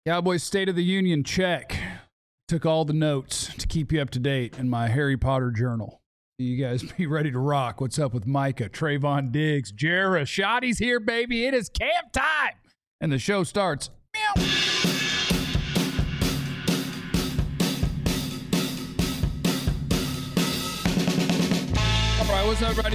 Cowboys State of the Union check. Took all the notes to keep you up to date in my Harry Potter journal. You guys be ready to rock. What's up with Micah, Trayvon Diggs, Jarrah? Shotty's here, baby. It is camp time. And the show starts. Meow. All right, what's up, everybody?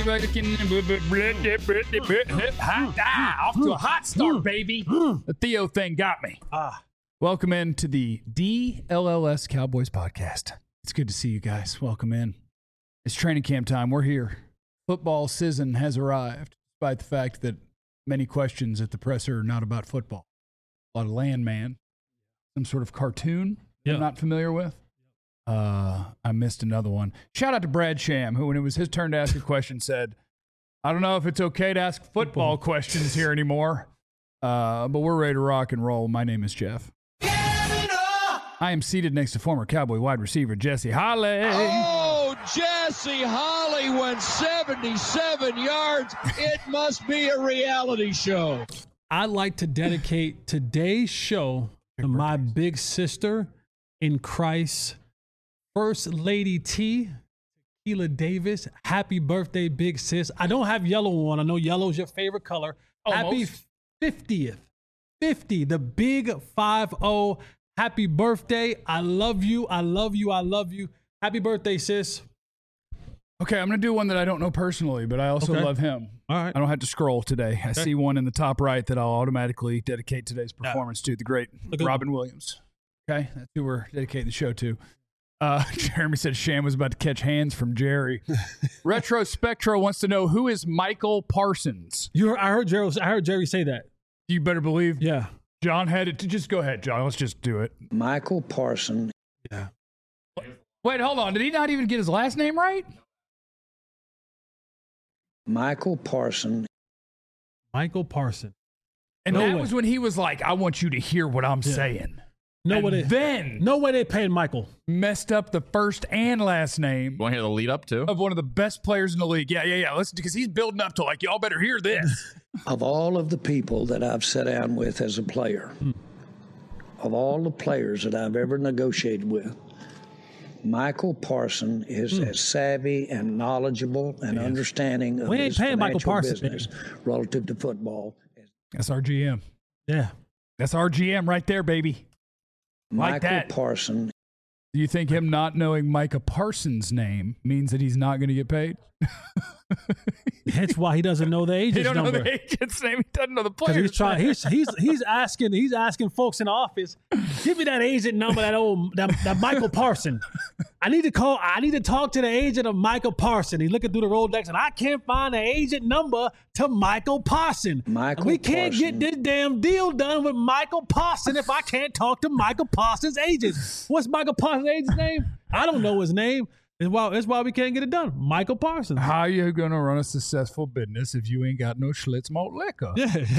Off to a hot start, baby. The Theo thing got me. Welcome in to the DLLS Cowboys podcast. It's good to see you guys. Welcome in. It's training camp time. We're here. Football season has arrived, despite the fact that many questions at the presser are not about football. A lot of Landman, some sort of cartoon I'm not familiar with. I missed another one. Shout out to Brad Sham, who, when it was his turn to ask a question, said, I don't know if it's okay to ask football questions here anymore, but we're ready to rock and roll. My name is Jeff. I am seated next to former Cowboy wide receiver Jesse Holley. Oh, Jesse Holley went 77 yards. It must be a reality show. I'd like to dedicate today's show to my big sister in Christ, First Lady T, Tequila Davis. Happy birthday, big sis. I don't have yellow on. I know yellow is your favorite color. Almost. Happy 50th. 50, the big 5-0. Happy birthday. I love you. I love you. I love you. Happy birthday, sis. Okay, I'm going to do one that I don't know personally, but I also love him. All right. I don't have to scroll today. I see one in the top right that I'll automatically dedicate today's performance to, the great Robin Williams. Okay, that's who we're dedicating the show to. Jeremy said Sham was about to catch hands from Jerry. Retro Spectro wants to know, who is Michael Parsons? I heard Jerry say that. You better believe. Yeah. John had it. Just go ahead, John. Let's just do it. Michael Parsons. Yeah. Wait, hold on. Did he not even get his last name right? Michael Parsons. Michael Parsons. And that was when he was like, I want you to hear what I'm saying. No way they paying Michael. Messed up the first and last name. You want to hear the lead up too? Of one of the best players in the league. Yeah. Listen, because he's building up to like, y'all better hear this. Of all of the people that I've sat down with as a player, of all the players that I've ever negotiated with, Michael Parsons is as savvy and knowledgeable and understanding of his financial business relative to football. That's our GM. Yeah. That's our GM right there, baby. Michael Parsons. Do you think him not knowing Micah Parsons' name means that he's not going to get paid? That's why he doesn't know the agent's number. He don't know the agent's name. He doesn't know the player's He's asking folks in the office, give me that agent number, that Michael Parsons. I need to talk to the agent of Michael Parsons. He's looking through the Rolodex, and I can't find the agent number to Michael Parsons. We can't get this damn deal done with Michael Parsons if I can't talk to Michael Parsons' agent. What's Michael Parsons' agent's name? I don't know his name. That's why we can't get it done. Michael Parsons. How are you going to run a successful business if you ain't got no Schlitz malt liquor?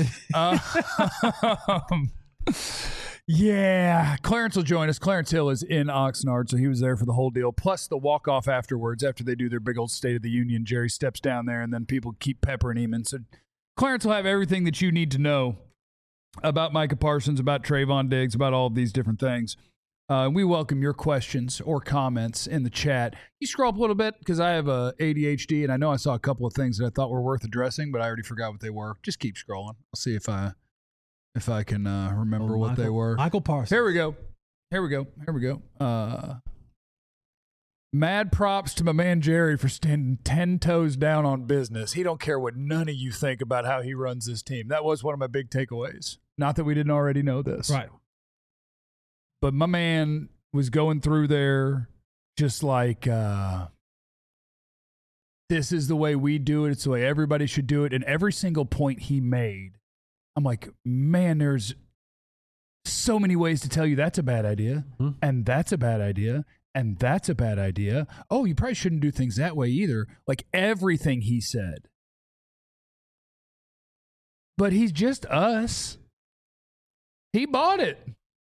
Yeah. Clarence will join us. Clarence Hill is in Oxnard, so he was there for the whole deal, plus the walk-off afterwards. After they do their big old State of the Union, Jerry steps down there, and then people keep peppering him. And so Clarence will have everything that you need to know about Micah Parsons, about Trayvon Diggs, about all of these different things. We welcome your questions or comments in the chat. You scroll up a little bit because I have ADHD, and I know I saw a couple of things that I thought were worth addressing, but I already forgot what they were. Just keep scrolling. I'll see if I can remember what they were. Michael Parsons. Here we go. Mad props to my man Jerry for standing 10 toes down on business. He don't care what none of you think about how he runs this team. That was one of my big takeaways. Not that we didn't already know this. Right. But my man was going through there just like, this is the way we do it. It's the way everybody should do it. And every single point he made, I'm like, man, there's so many ways to tell you that's a bad idea, and that's a bad idea, and that's a bad idea. Oh, you probably shouldn't do things that way either. Like everything he said. But he's just us. He bought it.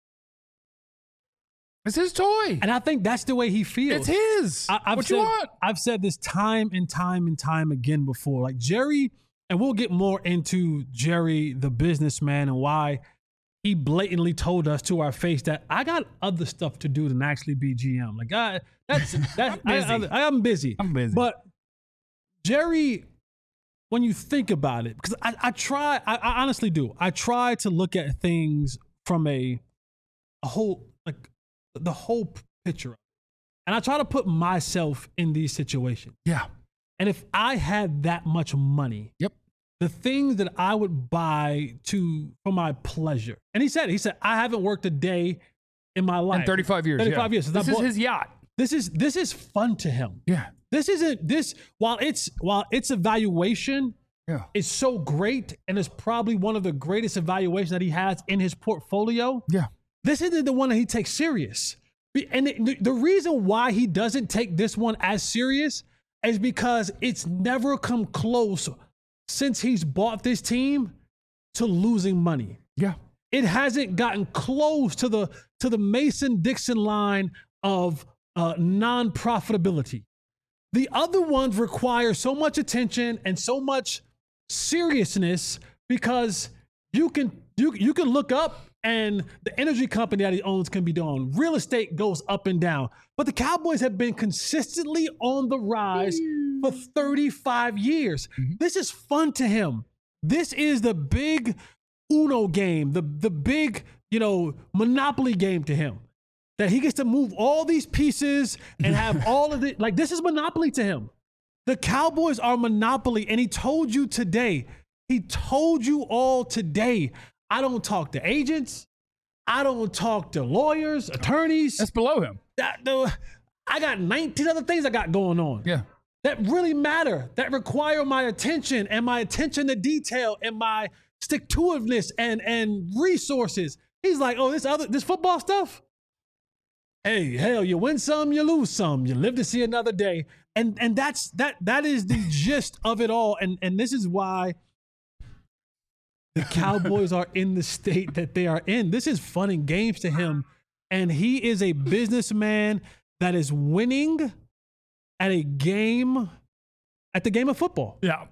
It's his toy. And I think that's the way he feels. It's his. What you want? I've said this time and time again before. Like Jerry, and we'll get more into Jerry, the businessman, and why he blatantly told us to our face that I got other stuff to do than actually be GM. Like, I'm busy. I'm busy. But Jerry, when you think about it, because I honestly do. I try to look at things from a whole, like the whole picture. And I try to put myself in these situations. Yeah. And if I had that much money, Yep. the things that I would buy for my pleasure. And he said, I haven't worked a day in my life. In 35 years. 35 years. This is his yacht. This is fun to him. Yeah. While its evaluation is so great and is probably one of the greatest evaluations that he has in his portfolio. Yeah. This isn't the one that he takes serious. And the reason why he doesn't take this one as serious is because it's never come close since he's bought this team to losing money. Yeah. It hasn't gotten close to the Mason-Dixon line of non-profitability. The other ones require so much attention and so much seriousness because you can look up and the energy company that he owns can be doing. Real estate goes up and down. But the Cowboys have been consistently on the rise for 35 years. Mm-hmm. This is fun to him. This is the big Uno game, the big, Monopoly game to him. That he gets to move all these pieces and have all of it. Like, this is Monopoly to him. The Cowboys are Monopoly. And he told you all today, I don't talk to agents. I don't talk to lawyers, attorneys. That's below him. I got 19 other things I got going on. Yeah. That really matter, that require my attention and my attention to detail and my stick-to-itiveness and resources. He's like, oh, this football stuff? Hey, hell, you win some, you lose some. You live to see another day. And that is the gist of it all. And this is why the Cowboys are in the state that they are in. This is fun and games to him. And he is a businessman that is winning at the game of football. Yeah.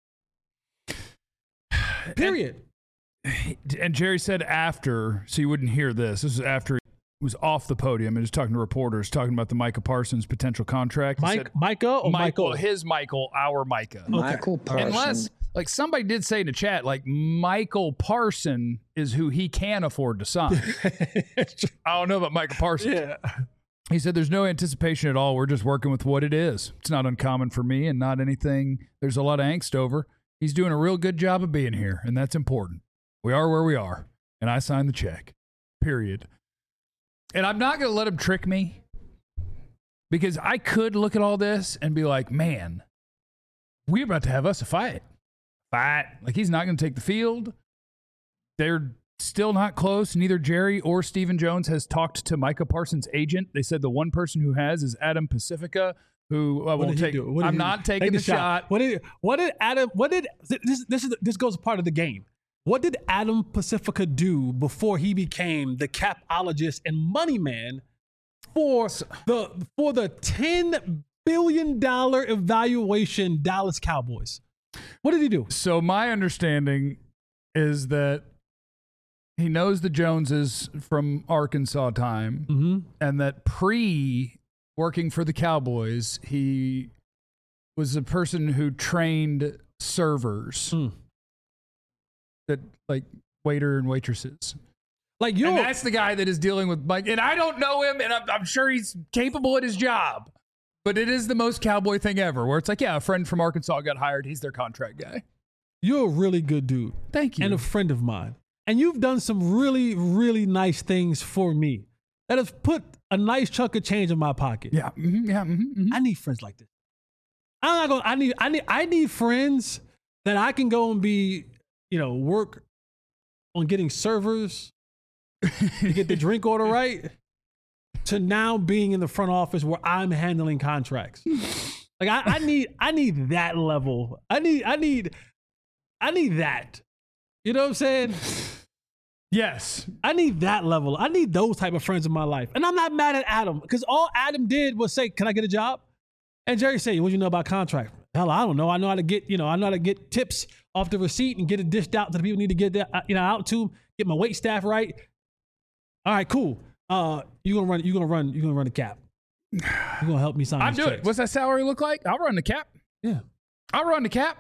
Period. And Jerry said after, so you wouldn't hear this. This is after he was off the podium and was talking to reporters, talking about the Micah Parsons potential contract. Micah or Michael? His Michael, our Micah. Michael Parsons. Unless, like somebody did say in the chat, like Michael Parson is who he can afford to sign. I don't know about Michael Parsons. Yeah. He said there's no anticipation at all. We're just working with what it is. It's not uncommon for me and not anything there's a lot of angst over. He's doing a real good job of being here, and that's important. We are where we are, and I signed the check, period. And I'm not going to let him trick me because I could look at all this and be like, man, we're about to have us a fight. Like, he's not going to take the field. They're still not close. Neither Jerry or Stephen Jones has talked to Micah Parsons' agent. They said the one person who has is Adam Pacifica, who I won't take. I'm not taking the shot. This goes part of the game. What did Adam Pacifica do before he became the capologist and money man for the $10 billion evaluation Dallas Cowboys? What did he do? So my understanding is that he knows the Joneses from Arkansas time, and that working for the Cowboys, he was a person who trained servers, that like waiter and waitresses. Like and that's the guy that is dealing with Mike. And I don't know him, and I'm sure he's capable at his job. But it is the most Cowboy thing ever, where it's like, yeah, a friend from Arkansas got hired. He's their contract guy. You're a really good dude. Thank you. And a friend of mine. And you've done some really, really nice things for me that have put a nice chunk of change in my pocket. Yeah. Mm-hmm. Yeah. Mm-hmm. I need friends like this. I need friends that I can go and be, work on getting servers to get the drink order right, to now being in the front office where I'm handling contracts. Like I need that level. I need that. You know what I'm saying? Yes. I need that level. I need those type of friends in my life. And I'm not mad at Adam, because all Adam did was say, "Can I get a job?" And Jerry said, "What do you know about contract?" Hell, I don't know. I know how to get tips off the receipt and get it dished out to the people who need to get that, out to. get my weight staff right. All right, cool. You're gonna run the cap. You're gonna help me sign. I'll these do it. checks. What's that salary look like? I'll run the cap. Yeah. I'll run the cap.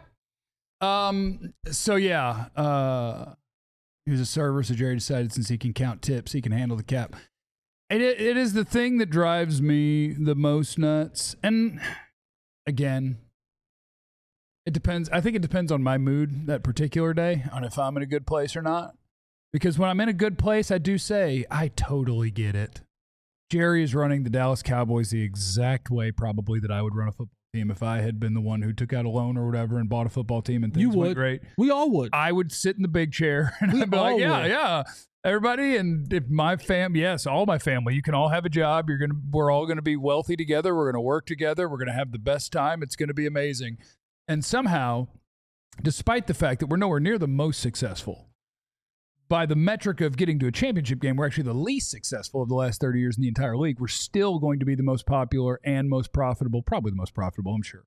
So yeah, he was a server, so Jerry decided since he can count tips, he can handle the cap. And it is the thing that drives me the most nuts. And again, it depends. I think it depends on my mood that particular day, on if I'm in a good place or not. Because when I'm in a good place, I do say, I totally get it. Jerry is running the Dallas Cowboys the exact way probably that I would run a football team if I had been the one who took out a loan or whatever and bought a football team and things went great. We all would. I would sit in the big chair and I'd be like, yeah, everybody. And if my all my family, you can all have a job. We're all going to be wealthy together. We're going to work together. We're going to have the best time. It's going to be amazing. And somehow, despite the fact that we're nowhere near the most successful, by the metric of getting to a championship game, we're actually the least successful of the last 30 years in the entire league. We're still going to be the most popular and most profitable, probably the most profitable, I'm sure.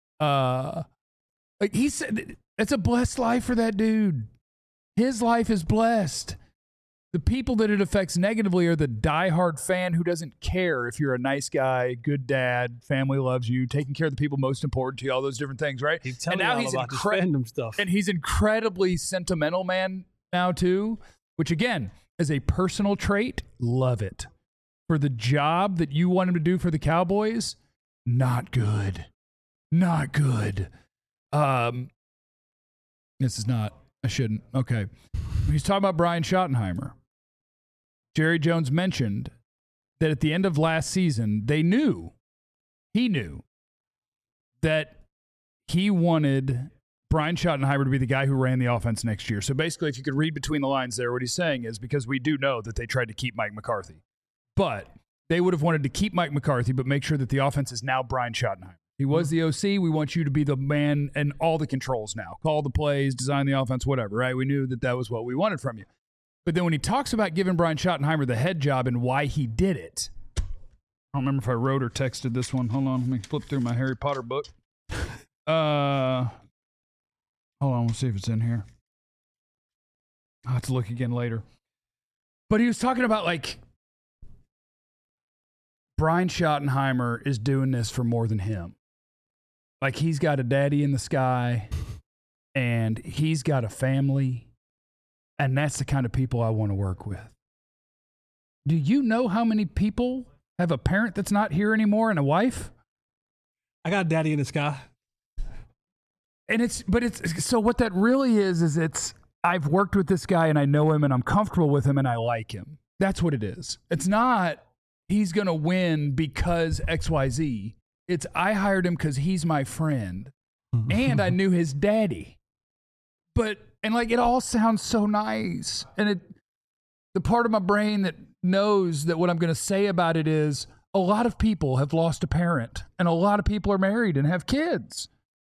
Like he said, it's a blessed life for that dude. His life is blessed. The people that it affects negatively are the diehard fan who doesn't care if you're a nice guy, good dad, family loves you, taking care of the people most important to you, all those different things, right? And now he's about this fandom stuff. And he's incredibly sentimental, man. Now too, which again, as a personal trait, love it. For the job that you want him to do for the Cowboys, not good. Not good. This is not, I shouldn't. Okay. He's talking about Brian Schottenheimer. Jerry Jones mentioned that at the end of last season, he knew that he wanted Brian Schottenheimer to be the guy who ran the offense next year. So basically, if you could read between the lines there, what he's saying is because we do know that they tried to keep Mike McCarthy. But they would have wanted to keep Mike McCarthy, but make sure that the offense is now Brian Schottenheimer. He was the OC. We want you to be the man and all the controls now. Call the plays, design the offense, whatever, right? We knew that was what we wanted from you. But then when he talks about giving Brian Schottenheimer the head job and why he did it, I don't remember if I wrote or texted this one. Hold on. Let me flip through my Harry Potter book. Hold on, we'll see if it's in here. I'll have to look again later. But he was talking about, like, Brian Schottenheimer is doing this for more than him. Like, he's got a daddy in the sky, and he's got a family, and that's the kind of people I want to work with. Do you know how many people have a parent that's not here anymore and a wife? I got a daddy in the sky. And so what that really is I've worked with this guy and I know him and I'm comfortable with him and I like him. That's what it is. It's not he's going to win because XYZ. It's I hired him because he's my friend and I knew his daddy. And like, it all sounds so nice. And the part of my brain that knows that what I'm going to say about it is a lot of people have lost a parent and a lot of people are married and have kids.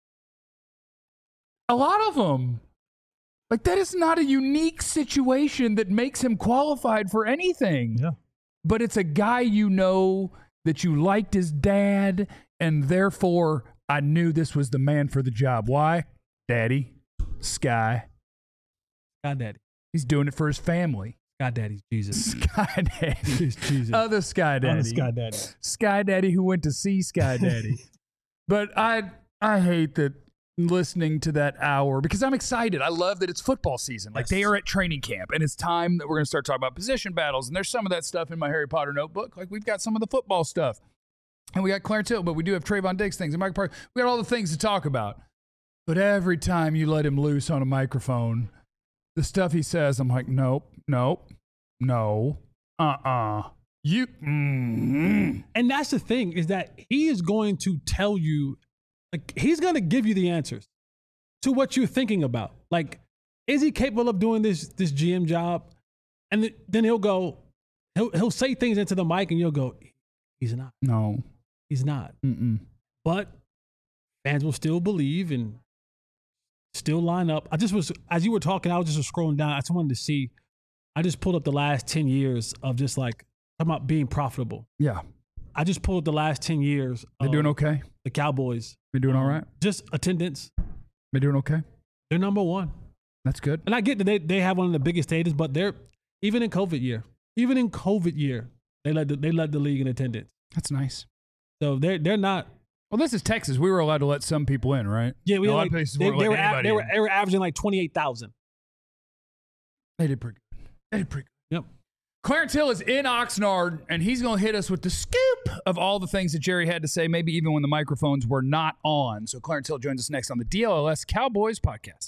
A lot of them. Like, that is not a unique situation that makes him qualified for anything. Yeah. But it's a guy you know that you liked his dad, and therefore I knew this was the man for the job. Why? Daddy. Sky. Sky Daddy. He's doing it for his family. Sky Daddy's Jesus. Sky Daddy. He's Jesus. Other Sky Daddy. Other Sky Daddy. Sky Daddy who went to see Sky Daddy. But I hate that listening to that hour because I'm excited. I love that it's football season. Like, they are at training camp and it's time that we're going to start talking about position battles. And there's some of that stuff in my Harry Potter notebook. Like, we've got some of the football stuff and we got Clarence Hill, but we do have Trayvon Diggs things and Mike Parker. We got all the things to talk about. But every time you let him loose on a microphone, the stuff he says, I'm like, nope, no. You. And that's the thing is that he is going to tell you, like, he's going to give you the answers to what you're thinking about. Like, is he capable of doing this GM job? And then he'll say things into the mic and you'll go, he's not. No. He's not. Mm-mm. But fans will still believe and still line up. As you were talking, I was just scrolling down. I just wanted to see, I just pulled up the last 10 years of just like, talking about being profitable. Yeah. I just pulled up the last 10 years. They're doing okay? The Cowboys. They're doing all right? Just attendance. They're doing okay? They're number one. That's good. And I get that they have one of the biggest stadiums, but they're even in COVID year, they led the league in attendance. That's nice. So they're not. Well, this is Texas. We were allowed to let some people in, right? Yeah, we a had lot like, of places they weren't letting anybody in. were averaging like 28,000. They did pretty good. Yep. Clarence Hill is in Oxnard, and he's going to hit us with the scoop of all the things that Jerry had to say, maybe even when the microphones were not on. So Clarence Hill joins us next on the DLLS Cowboys podcast.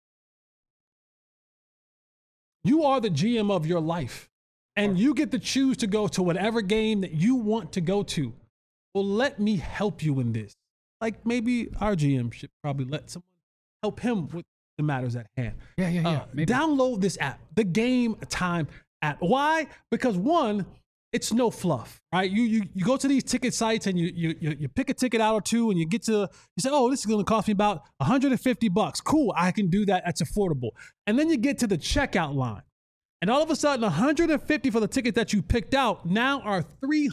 You are the GM of your life, and you get to choose to go to whatever game that you want to go to. Well, let me help you in this. Like maybe our GM should probably let someone help him with the matters at hand. Yeah. Download this app, the Game Time app. Why? Because one, it's no fluff, right? You go to these ticket sites and you pick a ticket out or two, and you say, oh, this is going to cost me about $150. Cool, I can do that. That's affordable. And then you get to the checkout line, and all of a sudden, $150 for the ticket that you picked out now are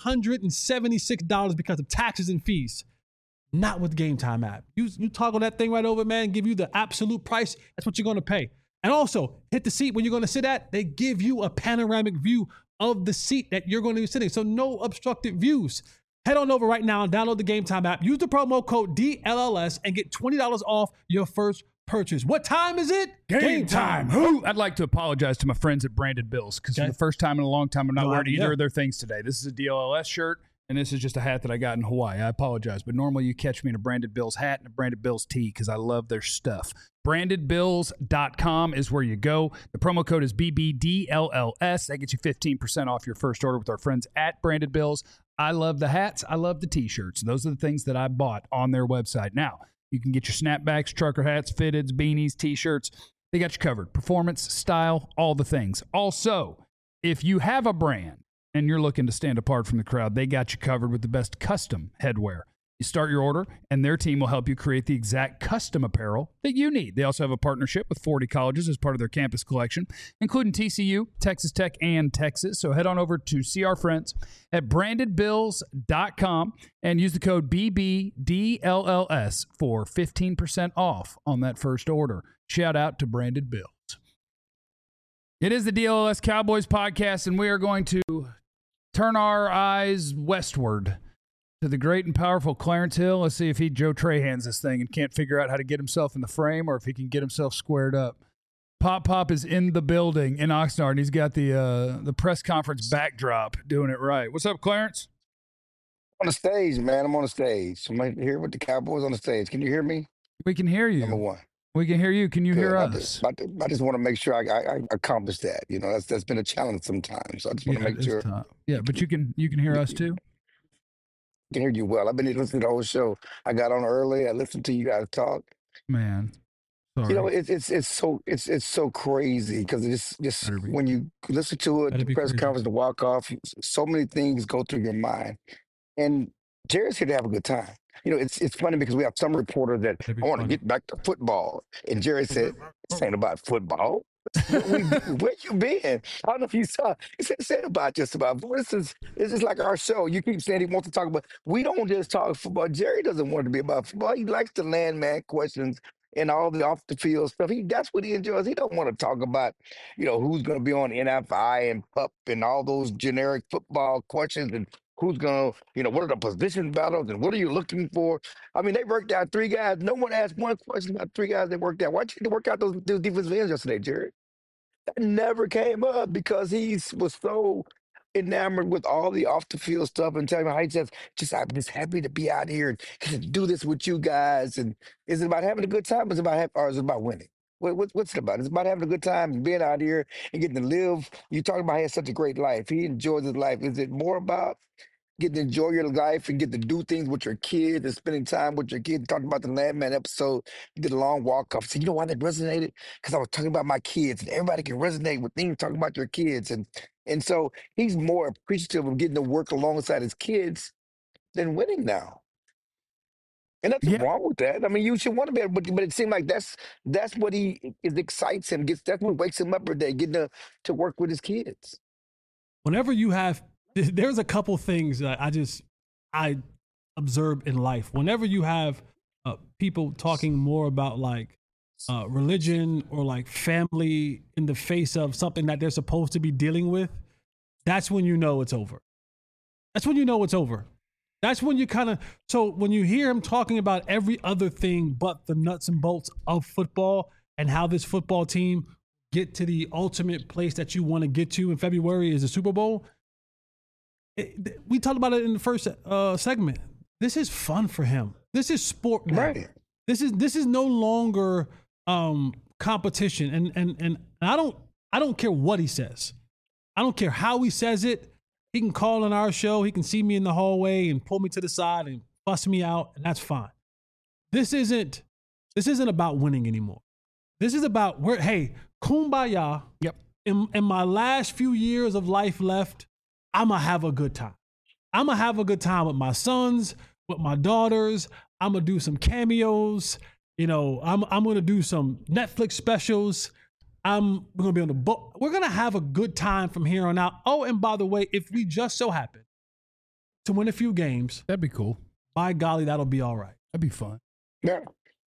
$376 because of taxes and fees. Not with Game Time app. You toggle that thing right over, man, give you the absolute price. That's what you're going to pay. And also, hit the seat where you're going to sit at. They give you a panoramic view of the seat that you're going to be sitting. So no obstructed views. Head on over right now and download the Game Time app. Use the promo code DLLS and get $20 off your first purchase. What time is it? Game time. I'd like to apologize to my friends at Branded Bills because for the first time in a long time, I'm not wearing either of their things today. This is a DLLS shirt, and this is just a hat that I got in Hawaii. I apologize, but normally you catch me in a Branded Bills hat and a Branded Bills tee because I love their stuff. BrandedBills.com is where you go. The promo code is BBDLLS. That gets you 15% off your first order with our friends at Branded Bills. I love the hats. I love the T-shirts. Those are the things that I bought on their website. Now, you can get your snapbacks, trucker hats, fitteds, beanies, T-shirts. They got you covered. Performance, style, all the things. Also, if you have a brand and you're looking to stand apart from the crowd, they got you covered with the best custom headwear. You start your order, and their team will help you create the exact custom apparel that you need. They also have a partnership with 40 colleges as part of their campus collection, including TCU, Texas Tech, and Texas. So head on over to see our friends at brandedbills.com and use the code BBDLLS for 15% off on that first order. Shout out to Branded Bills. It is the DLLS Cowboys podcast, and we are going to turn our eyes westward to the great and powerful Clarence Hill. Let's see if Joe Trahans this thing and can't figure out how to get himself in the frame or if he can get himself squared up. Pop is in the building in Oxnard, and he's got the press conference backdrop doing it right. What's up, Clarence? On the stage, man. I'm on the stage. I'm here with the Cowboys on the stage. Can you hear me? We can hear you. Number one. We can hear you. Can you hear us? I just want to make sure I accomplish that. You know, that's been a challenge sometimes. So I just want to make sure. Tough. Yeah, but you can hear us too. I can hear you well. I've been listening to the whole show. I got on early. I listened to you guys talk. Man, sorry. You know, it's so crazy because it's just when you listen to it, the press conference, the walk off, so many things go through your mind. And Jerry's here to have a good time. You know, it's funny because we have some reporter that I want to get back to football, and Jerry said, "This ain't about football." Where you been? I don't know if you saw. He said about just about. This is like our show. You keep saying he wants to talk about. We don't just talk football. Jerry doesn't want to be about football. He likes the landman questions and all the off the field stuff. That's what he enjoys. He don't want to talk about, you know, who's going to be on NFI and PUP and all those generic football questions and who's going to, you know, what are the position battles and what are you looking for? I mean, they worked out three guys. No one asked one question about three guys they worked out. Why'd you work out those defensive ends yesterday, Jerry? That never came up because he was so enamored with all the off the field stuff and telling me how he says, I'm just happy to be out here and do this with you guys. And is it about having a good time? Or is it about winning? What's it about? It's about having a good time and being out here and getting to live. You talking about he has such a great life. He enjoys his life. Is it more about getting to enjoy your life and get to do things with your kids and spending time with your kids? Talking about the Landman episode, you did a long walk off. So you know why that resonated? Because I was talking about my kids, and everybody can resonate with things talking about your kids. And so he's more appreciative of getting to work alongside his kids than winning now. And nothing wrong with that. I mean, you should want to be able, but it seemed like that's what excites him. That's what wakes him up every day, getting to work with his kids. Whenever you have, there's a couple things that I observe in life. Whenever you have people talking more about like religion or like family in the face of something that they're supposed to be dealing with, that's when you know it's over. That's when you know it's over. That's when you so when you hear him talking about every other thing but the nuts and bolts of football and how this football team get to the ultimate place that you want to get to in February is the Super Bowl. We talked about it in the first segment. This is fun for him. This is sport now. Right. This is no longer competition. And I don't care what he says. I don't care how he says it. He can call on our show. He can see me in the hallway and pull me to the side and fuss me out, and that's fine. This isn't about winning anymore. This is about kumbaya. Yep. In my last few years of life left, I'm going to have a good time. I'm going to have a good time with my sons, with my daughters. I'm going to do some cameos. I'm going to do some Netflix specials. We're going to be on the boat. We're going to have a good time from here on out. Oh, and by the way, if we just so happen to win a few games, that'd be cool. By golly, that'll be all right. That'd be fun. Yeah.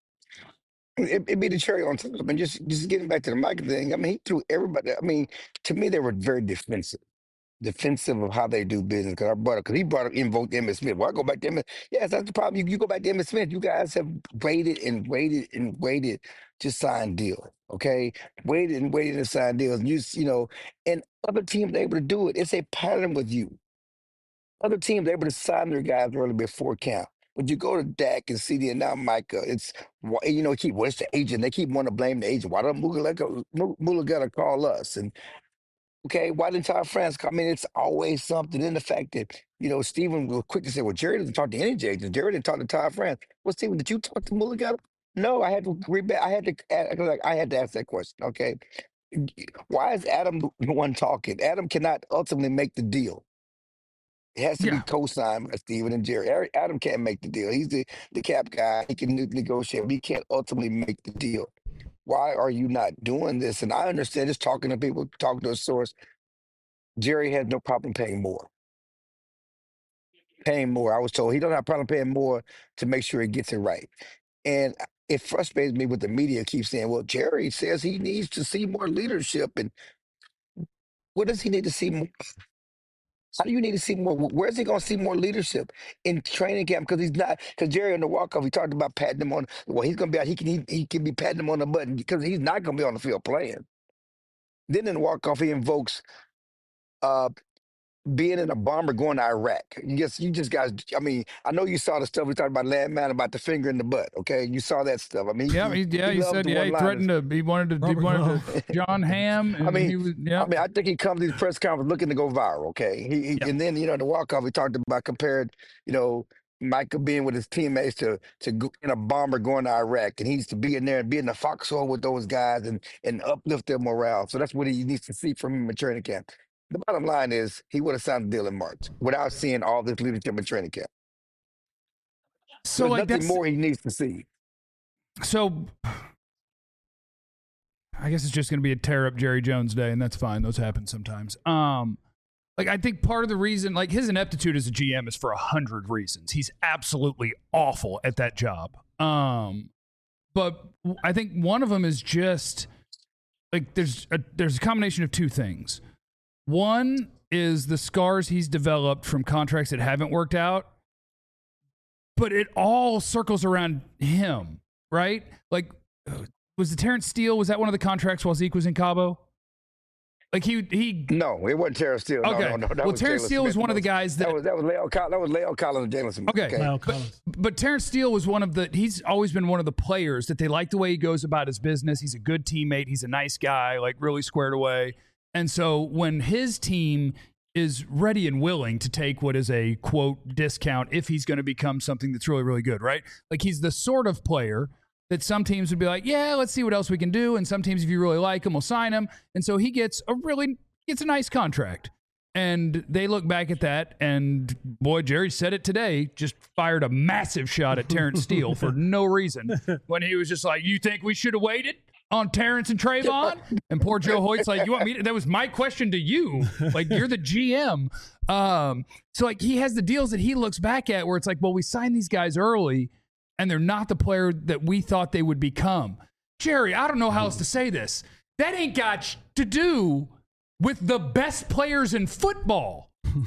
It'd be the cherry on top. I mean, just getting back to the Michael thing. I mean, he threw everybody. I mean, to me, they were very defensive of how they do business. Because he brought up, invoked Emmitt Smith. Well, I go back to Emmitt. Yes, that's the problem. You go back to Emmitt Smith. You guys have waited and waited and waited to sign deals. Okay, waited and waited to sign deals. And other teams able to do it. It's a pattern with you. Other teams able to sign their guys early before camp. But you go to Dak and CD and now Micah, it's what's the agent? They keep wanting to blame the agent. Why don't Mulugheta call us? And okay, why didn't Todd France call? I mean, it's always something. In the fact that Stephen was quick to say, "Well, Jerry doesn't talk to any agents. Jerry didn't talk to Todd France." Well, Stephen, did you talk to Mulugheta? No, I had to read back. I had to ask that question. Okay, why is Adam the one talking? Adam cannot ultimately make the deal. It has to be co-signed by Stephen and Jerry. Adam can't make the deal. He's the cap guy. He can negotiate, but he can't ultimately make the deal. Why are you not doing this? And I understand just talking to people, talking to a source. Jerry has no problem paying more. I was told he doesn't have a problem paying more to make sure he gets it right. And it frustrates me with the media keep saying, well, Jerry says he needs to see more leadership. And what does he need to see more? How do you need to see more? Where's he going to see more leadership in training camp? Because Jerry on the walk-off, he talked about patting him on. Well, he's going to be out. He can be patting him on the button because he's not going to be on the field playing. Then in the walk-off, he invokes being in a bomber going to Iraq. You just guys, I mean, I know you saw the stuff we talked about landman, about the finger in the butt, okay? You saw that stuff. I mean, he said, he threatened he wanted to John Hamm. And I think he comes to these press conferences looking to go viral, okay? And then, the walk-off, we talked about compared, Micah being with his teammates to go in a bomber going to Iraq, and he needs to be in there and be in the foxhole with those guys and uplift their morale. So that's what he needs to see from him in training camp. The bottom line is he would have signed the deal in March without seeing all this leadership in training camp. So there's nothing more he needs to see. So I guess it's just going to be a tear up Jerry Jones day, and that's fine. Those happen sometimes. I think part of the reason, his ineptitude as a GM is for 100 reasons. He's absolutely awful at that job. But I think one of them is just there's a combination of two things. One is the scars he's developed from contracts that haven't worked out, but it all circles around him, right? Was the Terrence Steele, was that one of the contracts while Zeke was in Cabo? No, it wasn't Terrence Steele. Okay. No. Terrence Steele was one of the guys that was Leo Collins and Jalen Smith. Okay. But Terrence Steele was he's always been one of the players that they like the way he goes about his business. He's a good teammate. He's a nice guy, really squared away. And so when his team is ready and willing to take what is a, quote, discount if he's going to become something that's really, really good, right? He's the sort of player that some teams would be like, yeah, let's see what else we can do. And some teams, if you really like him, will sign him. And so he gets a nice contract. And they look back at that, and boy, Jerry said it today, just fired a massive shot at Terrence Steele for no reason when he was just like, you think we should have waited on Terrence and Trayvon? And poor Joe Hoyt's like, you want me to, that was my question to you. You're the GM. So he has the deals that he looks back at where it's well, we signed these guys early and they're not the player that we thought they would become. Jerry, I don't know how else to say this. That ain't got to do with the best players in football.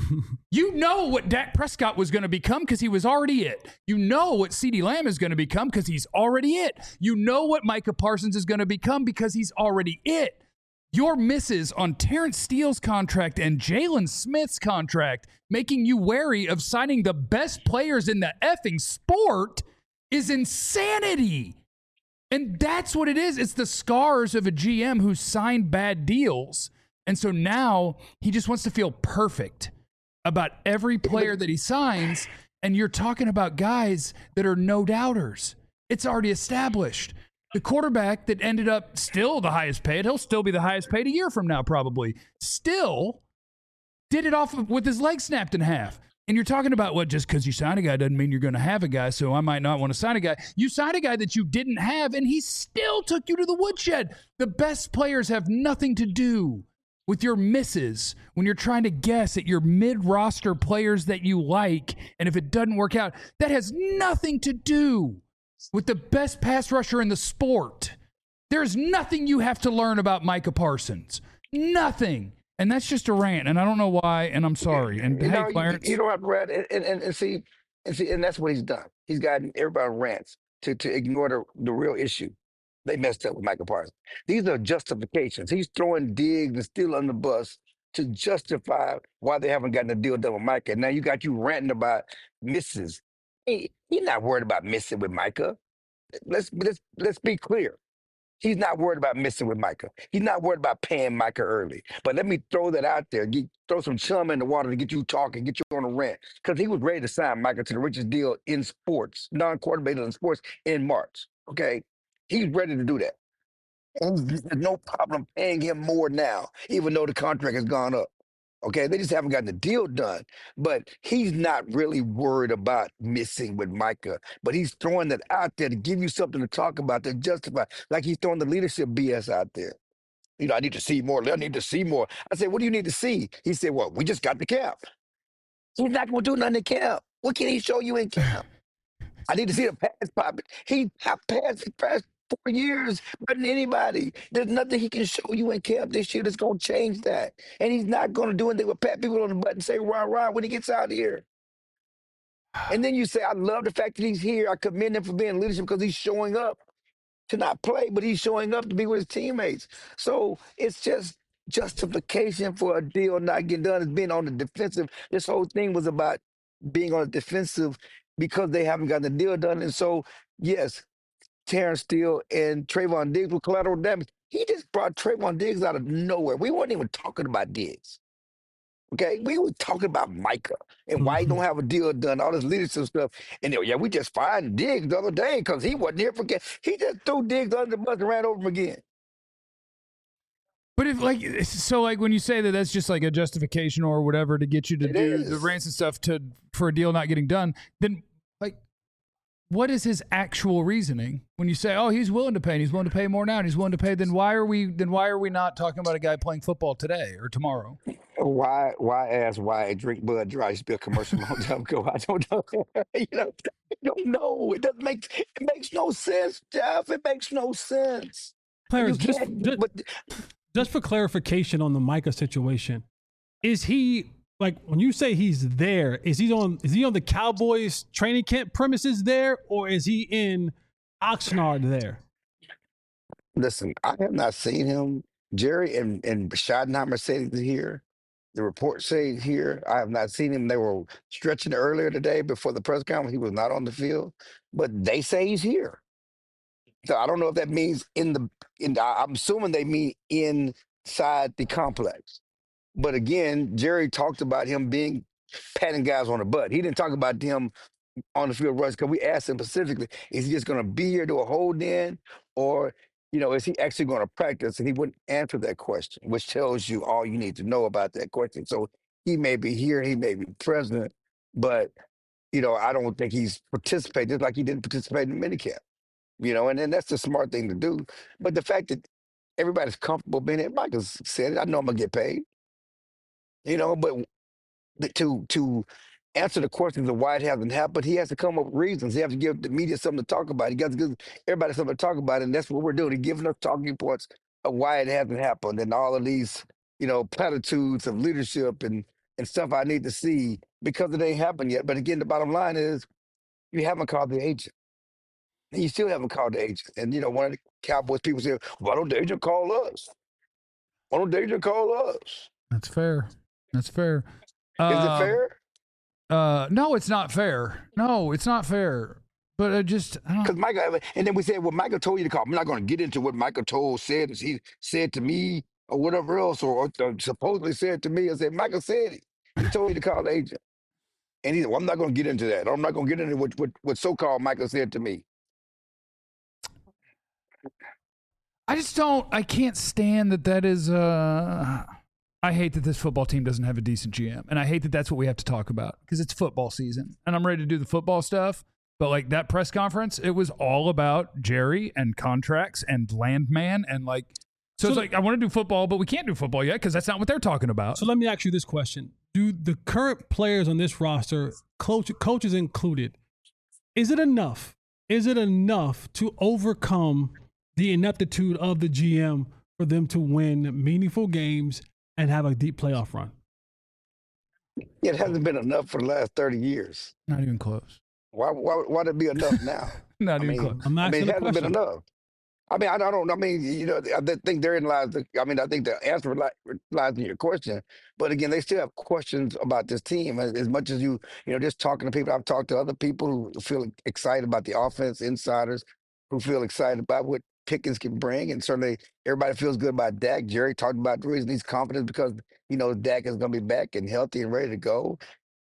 You know what Dak Prescott was going to become because he was already it. You know what CeeDee Lamb is going to become because he's already it. You know what Micah Parsons is going to become because he's already it. Your misses on Terrence Steele's contract and Jalen Smith's contract, making you wary of signing the best players in the effing sport, is insanity. And that's what it is. It's the scars of a GM who signed bad deals. And so now he just wants to feel perfect about every player that he signs. And you're talking about guys that are no doubters. It's already established. The quarterback that ended up still the highest paid, he'll still be the highest paid a year from now probably, still did it off with his leg snapped in half. And you're talking about, well, just because you sign a guy doesn't mean you're going to have a guy, so I might not want to sign a guy. You signed a guy that you didn't have, and he still took you to the woodshed. The best players have nothing to do with your misses when you're trying to guess at your mid-roster players that you like, and if it doesn't work out, that has nothing to do with the best pass rusher in the sport. There's nothing you have to learn about Micah Parsons. Nothing. And that's just a rant, and I don't know why, and I'm sorry. And hey, Clarence, you don't have to rant, and see, and that's what he's done. He's gotten everybody rants to ignore the real issue. They messed up with Micah Parsons. These are justifications. He's throwing Diggs and Steele on the bus to justify why they haven't gotten a deal done with Micah. Now you got you ranting about misses. He's not worried about missing with Micah. Let's be clear. He's not worried about missing with Micah. He's not worried about paying Micah early. But let me throw that out there. Throw some chum in the water to get you talking, get you on a rant. Because he was ready to sign Micah to the richest deal in sports, non-quarterback in sports, in March. Okay? He's ready to do that. And there's no problem paying him more now, even though the contract has gone up. Okay, they just haven't gotten the deal done. But he's not really worried about missing with Micah. But he's throwing that out there to give you something to talk about, to justify. Like he's throwing the leadership BS out there. You know, I need to see more. I need to see more. I said, what do you need to see? He said, well, we just got the camp. He's not going to do nothing in camp. What can he show you in camp? I need to see the pass popping. He passed 4 years better than anybody. There's nothing he can show you in camp this year that's going to change that. And he's not going to do anything but pat people on the butt and say, rah, when he gets out of here. And then you say, I love the fact that he's here. I commend him for being leadership because he's showing up to not play, but he's showing up to be with his teammates. So it's just justification for a deal not getting done. It's being on the defensive. This whole thing was about being on the defensive because they haven't gotten the deal done. And so, yes, Terrence Steele and Trayvon Diggs with collateral damage. He just brought Trayvon Diggs out of nowhere. We weren't even talking about Diggs. Okay? We were talking about Micah and why he don't have a deal done, all this leadership stuff. And we just fired Diggs the other day because he wasn't here for he just threw Diggs under the bus and ran over him again. But if when you say that that's just like a justification or whatever to get you to do the rants and stuff for a deal not getting done, then what is his actual reasoning when you say, oh, he's willing to pay and he's willing to pay more now and he's willing to pay, then why are we not talking about a guy playing football today or tomorrow? Why drink Bud Dry? Used to be a commercial a long time ago. I don't know. I don't know. It makes no sense, Jeff. It makes no sense. Clarence, just for clarification on the Micah situation, is he when you say he's there, is he on the Cowboys training camp premises there, or is he in Oxnard there? Listen, I have not seen him. Jerry and Schottenheimer say he's here. The reports say he's here. I have not seen him. They were stretching earlier today before the press conference. He was not on the field, but they say he's here. So I don't know if that means I'm assuming they mean inside the complex. But again, Jerry talked about him patting guys on the butt. He didn't talk about him on the field rush because we asked him specifically, is he just going to be here to a hold in, or is he actually going to practice? And he wouldn't answer that question, which tells you all you need to know about that question. So he may be here, he may be present, but I don't think he's participating, just like he didn't participate in minicamp. And that's the smart thing to do. But the fact that everybody's comfortable being here, Michael said it, I know I'm gonna get paid. But to answer the questions of why it hasn't happened. He has to come up with reasons. He has to give the media something to talk about. He got to give everybody something to talk about, and that's what we're doing. He's giving us talking points of why it hasn't happened and all of these, platitudes of leadership and stuff I need to see because it ain't happened yet. But again, the bottom line is you haven't called the agent. And you still haven't called the agent. And, one of the Cowboys people say, why don't the agent call us? Why don't the agent call us? That's fair. Is it fair? No, it's not fair. No, it's not fair. But because Michael, and then we said, well, Michael told you to call. I'm not going to get into what Michael said. He said to me or whatever else, or supposedly said to me. I said, Michael said it. He told you to call the agent. And he said, well, I'm not going to get into that. I'm not going to get into what so-called Michael said to me. I can't stand that is, I hate that this football team doesn't have a decent GM. And I hate that that's what we have to talk about because it's football season and I'm ready to do the football stuff. But like that press conference, it was all about Jerry and contracts and Landman and so it's like, I want to do football, but we can't do football yet because that's not what they're talking about. So let me ask you this question. Do the current players on this roster, coaches included, is it enough? Is it enough to overcome the ineptitude of the GM for them to win meaningful games and have a deep playoff run? It hasn't been enough for the last 30 years. Not even close. Why'd it be enough now? Not even close. It hasn't been enough. I think therein lies I think the answer lies in your question. But again, they still have questions about this team as much as just talking to people. I've talked to other people who feel excited about the offense, insiders who feel excited about what Pickens can bring. And certainly everybody feels good about Dak. Jerry talked about the reason he's confident because Dak is going to be back and healthy and ready to go.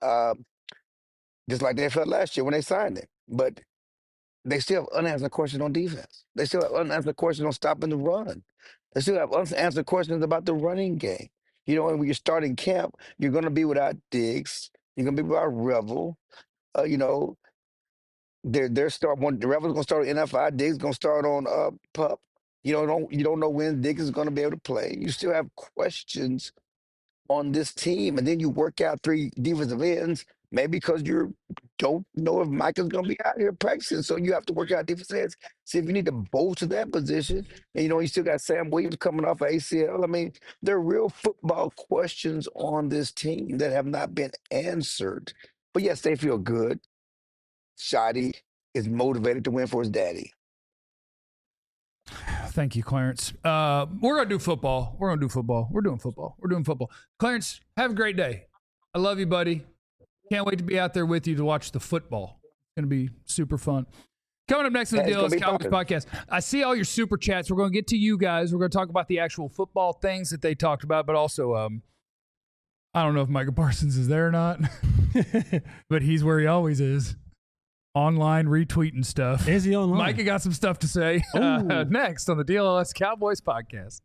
Just like they felt last year when they signed him. But they still have unanswered questions on defense. They still have unanswered questions on stopping the run. They still have unanswered questions about the running game. And when you're starting camp, you're going to be without Diggs. You're going to be without Revel. The Revel's going to start on NFI. Diggs is going to start on PUP. You don't know when Diggs is going to be able to play. You still have questions on this team, and then you work out 3 defensive ends. Maybe because you don't know if Michael's going to be out here practicing. So you have to work out defensive ends, see if you need to bolster that position. And, you still got Sam Williams coming off of ACL. There are real football questions on this team that have not been answered. But, yes, they feel good. Shotty is motivated to win for his daddy. Thank you, Clarence. We're going to do football. We're doing football. Clarence, have a great day. I love you, buddy. Can't wait to be out there with you to watch the football. It's going to be super fun. Coming up next on the DLS Cowboys podcast, I see all your super chats. We're going to get to you guys. We're going to talk about the actual football things that they talked about, but also, I don't know if Micah Parsons is there or not, but he's where he always is. Online retweeting stuff. Is he online? Micah got some stuff to say next on the DLS Cowboys podcast.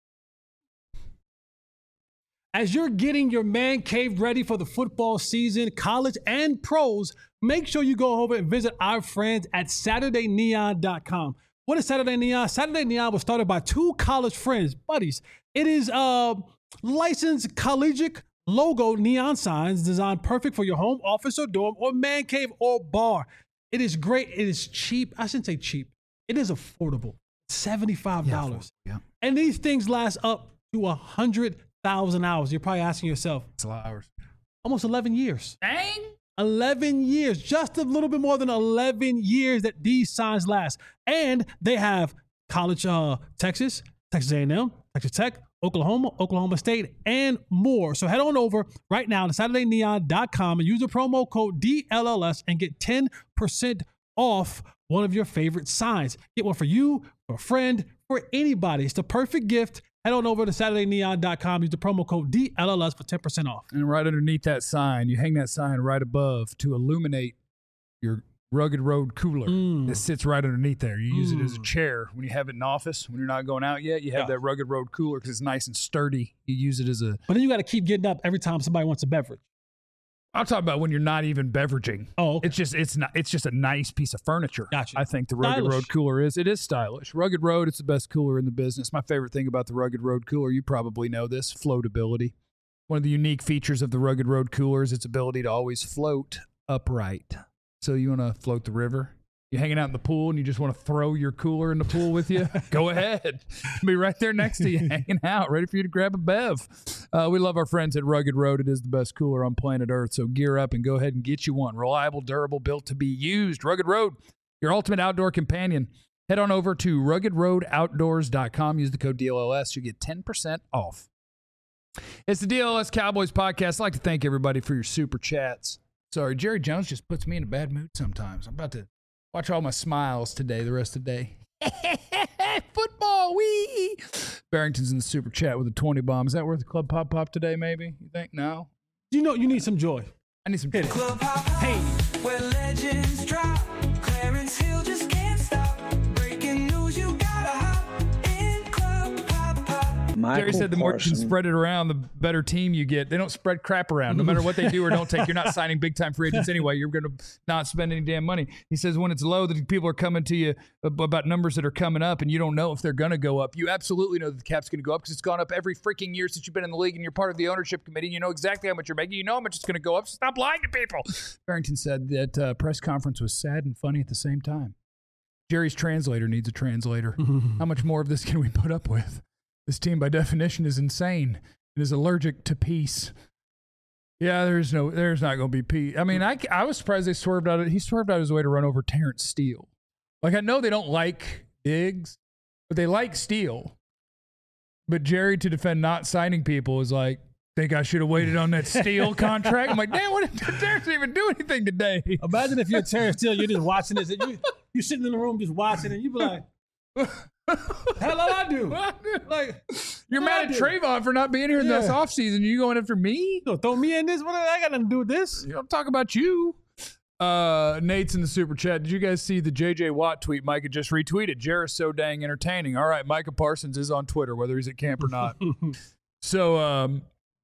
As you're getting your man cave ready for the football season, college and pros, make sure you go over and visit our friends at SaturdayNeon.com. What is Saturday Neon? Saturday Neon was started by 2 college friends, buddies. It is licensed collegiate logo neon signs designed perfect for your home, office, or dorm, or man cave, or bar. It is great. It is cheap. I shouldn't say cheap. It is affordable. $75. Yeah. And these things last up to 100,000 hours. You're probably asking yourself. It's a lot of hours. Almost 11 years. Dang. 11 years. Just a little bit more than 11 years that these signs last. And they have college, Texas A&M, Texas Tech, Oklahoma State, and more. So head on over right now to SaturdayNeon.com and use the promo code DLLS and get 10% off one of your favorite signs. Get one for you, for a friend, for anybody. It's the perfect gift. Head on over to SaturdayNeon.com. Use the promo code DLLS for 10% off. And right underneath that sign, you hang that sign right above to illuminate your Rugged Road cooler that sits right underneath there. You use it as a chair when you have it in office. When you're not going out yet, you have that Rugged Road cooler because it's nice and sturdy. You use it as a... But then you got to keep getting up every time somebody wants a beverage. I'll talk about when you're not even beveraging. Oh, okay. It's just a nice piece of furniture. Gotcha. I think the Rugged Road cooler is. It is stylish. Rugged Road, it's the best cooler in the business. My favorite thing about the Rugged Road cooler, you probably know this, floatability. One of the unique features of the Rugged Road cooler is its ability to always float upright. So you want to float the river? You're hanging out in the pool and you just want to throw your cooler in the pool with you? Go ahead. It'll be right there next to you, hanging out, ready for you to grab a bev. We love our friends at Rugged Road. It is the best cooler on planet Earth, so gear up and go ahead and get you one. Reliable, durable, built to be used. Rugged Road, your ultimate outdoor companion. Head on over to ruggedroadoutdoors.com. Use the code DLLS. You get 10% off. It's the DLLS Cowboys podcast. I'd like to thank everybody for your super chats. Sorry, Jerry Jones just puts me in a bad mood sometimes. I'm about to watch all my smiles today, the rest of the day. Football, wee! Barrington's in the super chat with a 20 bomb. Is that worth a club pop today, maybe? You think? No? You know, you need some joy. I need some joy. Club pop, hey, where legends drop. Clarence Hill just can't stop. Breaking news, you gotta hop in Club Pop. Jerry said the more you can spread it around, the better team you get. They don't spread crap around. No matter what they do or don't take, you're not signing big-time free agents anyway. You're going to not spend any damn money. He says when it's low, that people are coming to you about numbers that are coming up, and you don't know if they're going to go up. You absolutely know that the cap's going to go up because it's gone up every freaking year since you've been in the league, and you're part of the ownership committee. You know exactly how much you're making. You know how much it's going to go up. So stop lying to people. Barrington said that press conference was sad and funny at the same time. Jerry's translator needs a translator. How much more of this can we put up with? This team, by definition, is insane. It is allergic to peace. Yeah, there's not going to be peace. I mean, I was surprised he swerved out his way to run over Terrence Steele. Like, I know they don't like Diggs, but they like Steele. But Jerry, to defend not signing people, is like, think I should have waited on that Steele contract? I'm like, damn, what did Terrence even do anything today? Imagine if you're Terrence Steele, you're just watching this, and you're sitting in the room just watching, and you be like, hell I do. Like, you're mad at Trayvon for not being here in this offseason. You going after me? You throw me in this? What I got nothing to do with this? I'm talking about you. Nate's in the super chat. Did you guys see the JJ Watt tweet Micah just retweeted? Jerry's so dang entertaining. All right, Micah Parsons is on Twitter, whether he's at camp or not. So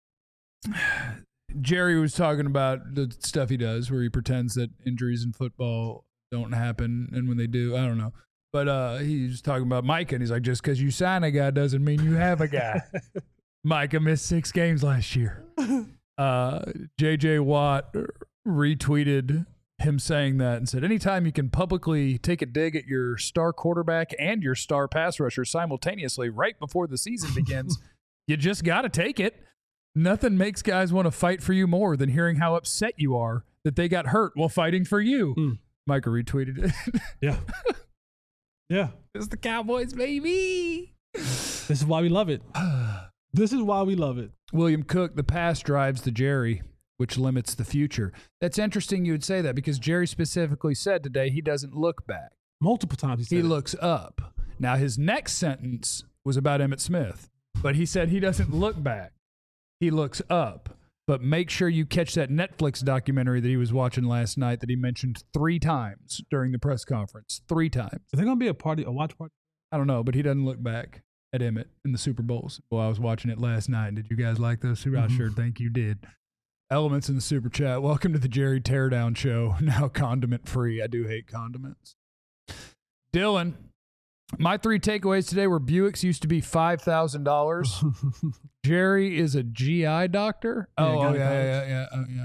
Jerry was talking about the stuff he does where he pretends that injuries in football don't happen, and when they do, I don't know. But he's talking about Micah, and he's like, just because you sign a guy doesn't mean you have a guy. Micah missed 6 games last year. J.J. Watt retweeted him saying that and said, anytime you can publicly take a dig at your star quarterback and your star pass rusher simultaneously right before the season begins, you just got to take it. Nothing makes guys want to fight for you more than hearing how upset you are that they got hurt while fighting for you. Micah retweeted it. Yeah. Yeah. It's the Cowboys, baby. This is why we love it. This is why we love it. William Cook, the past drives the Jerry, which limits the future. That's interesting you would say that because Jerry specifically said today he doesn't look back. Multiple times he looks up. Now, his next sentence was about Emmitt Smith, but he said he doesn't look back. He looks up. But make sure you catch that Netflix documentary that he was watching last night that he mentioned 3 times during the press conference. 3 times. Is there going to be a watch party? I don't know, but he doesn't look back at Emmitt in the Super Bowls. Well, I was watching it last night. Did you guys like those? I sure think you did. Elements in the super chat. Welcome to the Jerry Teardown Show. Now condiment free. I do hate condiments. Dylan, my 3 takeaways today were Buicks used to be $5,000. Jerry is a GI doctor. Yeah.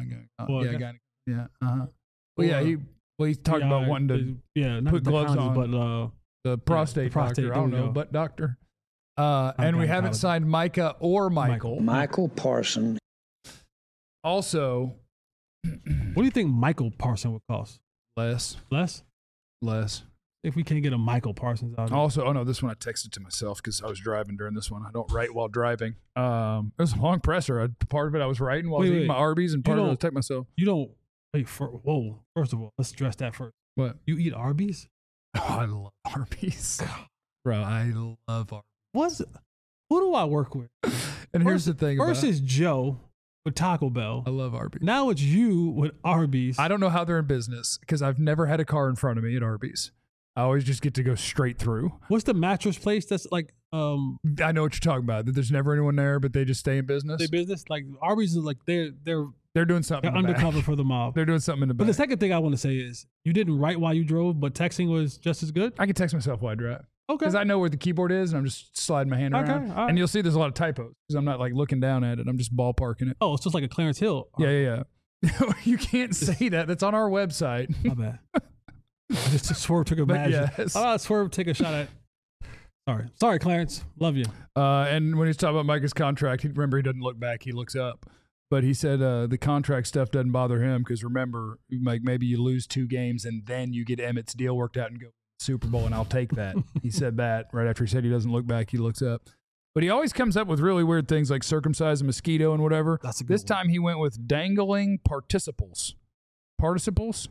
He's talking about wanting to put gloves on. But the prostate doctor. I don't know, butt doctor. And we haven't signed Micah or Michael. Michael Parsons. Also, what do you think Michael Parsons would cost? Less. If we can't get a Michael Parsons out. Also, this one I texted to myself because I was driving during this one. I don't write while driving. It was a long presser. Part of it I was writing while I was eating my Arby's, and part of it I was texting myself. You don't wait for. Whoa! First of all, let's address that first. What? You eat Arby's? Oh, I love Arby's, bro. I love Arby's. Who do I work with? And here's the thing. First is Joe with Taco Bell. I love Arby's. Now it's you with Arby's. I don't know how they're in business because I've never had a car in front of me at Arby's. I always just get to go straight through. What's the mattress place that's like? I know what you're talking about. That there's never anyone there, but they just stay in business. Like Arby's is like they're doing something. They're undercover for the mob. They're doing something in the back. But the second thing I want to say is you didn't write while you drove, but texting was just as good. I can text myself while I drive. Okay. Because I know where the keyboard is, and I'm just sliding my hand around. all right. And you'll see there's a lot of typos because I'm not like looking down at it. I'm just ballparking it. Oh, it's just like a Clarence Hill. Yeah. You can't say that. That's on our website. My bad. Just Swerve took a But bad. yes. Swerve take a shot at. Sorry, Clarence. Love you. And when he's talking about Micah's contract, remember he doesn't look back; he looks up. But he said the contract stuff doesn't bother him because remember, like maybe you lose 2 games and then you get Emmett's deal worked out and go Super Bowl, and I'll take that. He said that right after he said he doesn't look back; he looks up. But he always comes up with really weird things like circumcise a mosquito and whatever. That's a good This one. time he went with dangling participles. Participles.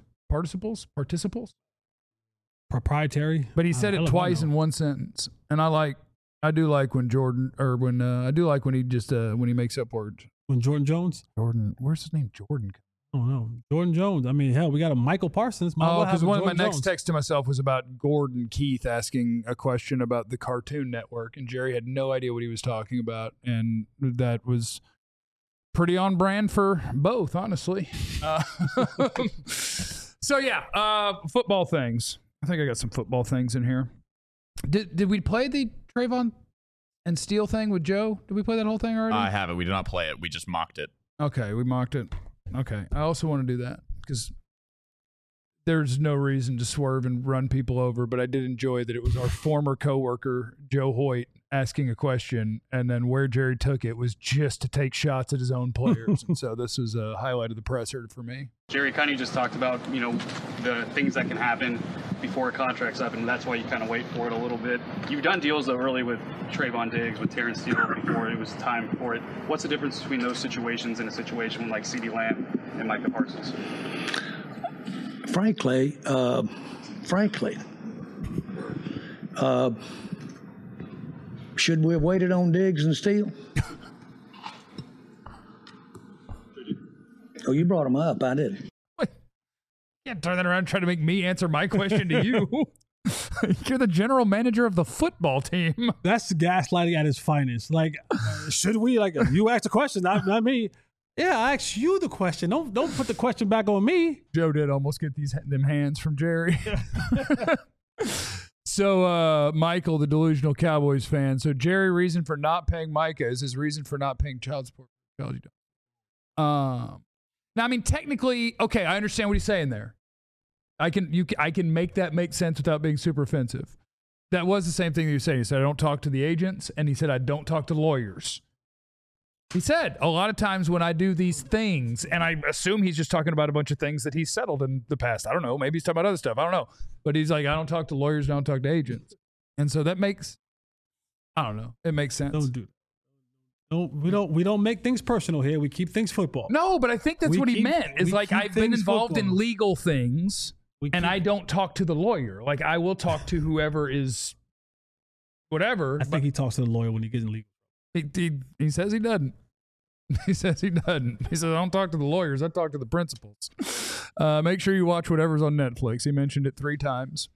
Proprietary. But he said hell it if I twice know. in one sentence, and I do like when Jordan or when I do like when he just when he makes up words. When Jordan Jones. Jordan, where's his name? Jordan. Oh no, Jordan Jones. I mean, hell, we got a Michael Parsons. Because one of my next Jones. texts to myself was about Gordon Keith asking a question about the Cartoon Network, and Jerry had no idea what he was talking about, and that was pretty on brand for both, honestly. So yeah, football things. I think I got some football things in here. Did we play the Trayvon and Steele thing with Joe? Did we play that whole thing already? I haven't. We did not play it. We just mocked it. Okay, we mocked it. Okay, I also want to do that because there's no reason to swerve and run people over, but I did enjoy that it was our former coworker, Joe Hoyt, asking a question, and then where Jerry took it was just to take shots at his own players. And so this was a highlight of the presser for me. Jerry kind of just talked about, the things that can happen before contracts up, and that's why you kind of wait for it a little bit. You've done deals, though, early with Trayvon Diggs, with Terrence Steele before it was time for it. What's the difference between those situations and a situation like CeeDee Lamb and Micah Parsons? Frankly, should we have waited on Diggs and Steele? Oh, you brought them up. I didn't. You can't turn that around and try to make me answer my question to you. You're the general manager of the football team. That's gaslighting at its finest. Like, should we? Like, you asked a question, not me. Yeah, I asked you the question. Don't put the question back on me. Joe did almost get them hands from Jerry. So, Michael, the delusional Cowboys fan. So, Jerry, reason for not paying Micah is his reason for not paying child support. Now, I mean, technically, okay, I understand what he's saying there. I can make that make sense without being super offensive. That was the same thing that you said. He said, I don't talk to the agents, and he said, I don't talk to lawyers. He said, a lot of times when I do these things, and I assume he's just talking about a bunch of things that he's settled in the past. I don't know. Maybe he's talking about other stuff. I don't know. But he's like, I don't talk to lawyers, I don't talk to agents. And so that makes, I don't know. It makes sense. Don't do that. No, we don't make things personal here. We keep things football. No, but I think that's what he meant. Is like, I've been involved in legal things, and I don't talk to the lawyer. Like, I will talk to whoever is whatever. I think he talks to the lawyer when he gets in legal. He says he doesn't. He says he doesn't. He says, I don't talk to the lawyers. I talk to the principals. Make sure you watch whatever's on Netflix. He mentioned it 3 times.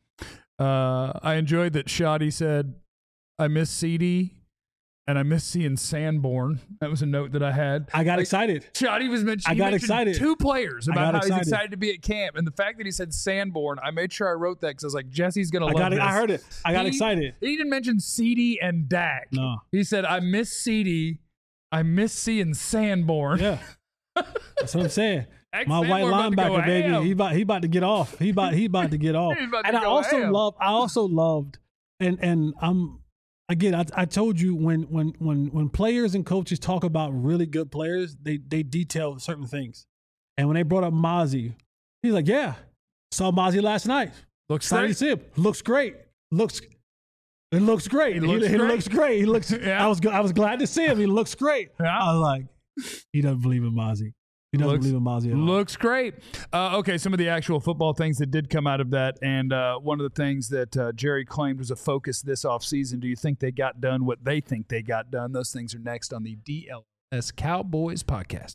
I enjoyed that Shoddy said, I miss CD and I miss seeing Sanborn. That was a note that I had. I got excited. Shoddy was mentioning. I got excited. 2 players about how he's excited. excited to be at camp, and the fact that he said Sanborn, I made sure I wrote that because I was like, Jesse's gonna love this. I heard it. I got excited. He didn't mention CD and Dak. No. He said, I miss CD. I miss seeing Sanborn. Yeah, that's what I'm saying. My Sanborn white about to go linebacker, baby. ham. He about to get off. He about to get off. He's about to And I go also ham. loved, and I'm again. I told you when players and coaches talk about really good players, they detail certain things. And when they brought up Mozzie, he's like, "Yeah, saw Mozzie last night. Looks Excited to great. see him. Looks great. It looks great. He looks great. He looks. Yeah. I was glad to see him. He looks great. Yeah. I was like, he doesn't believe in Mozzie. He doesn't believe in Mozzie at all. Looks great. Okay, some of the actual football things that did come out of that, and one of the things that Jerry claimed was a focus this offseason. Do you think they got done what they think they got done? Those things are next on the DLS Cowboys podcast.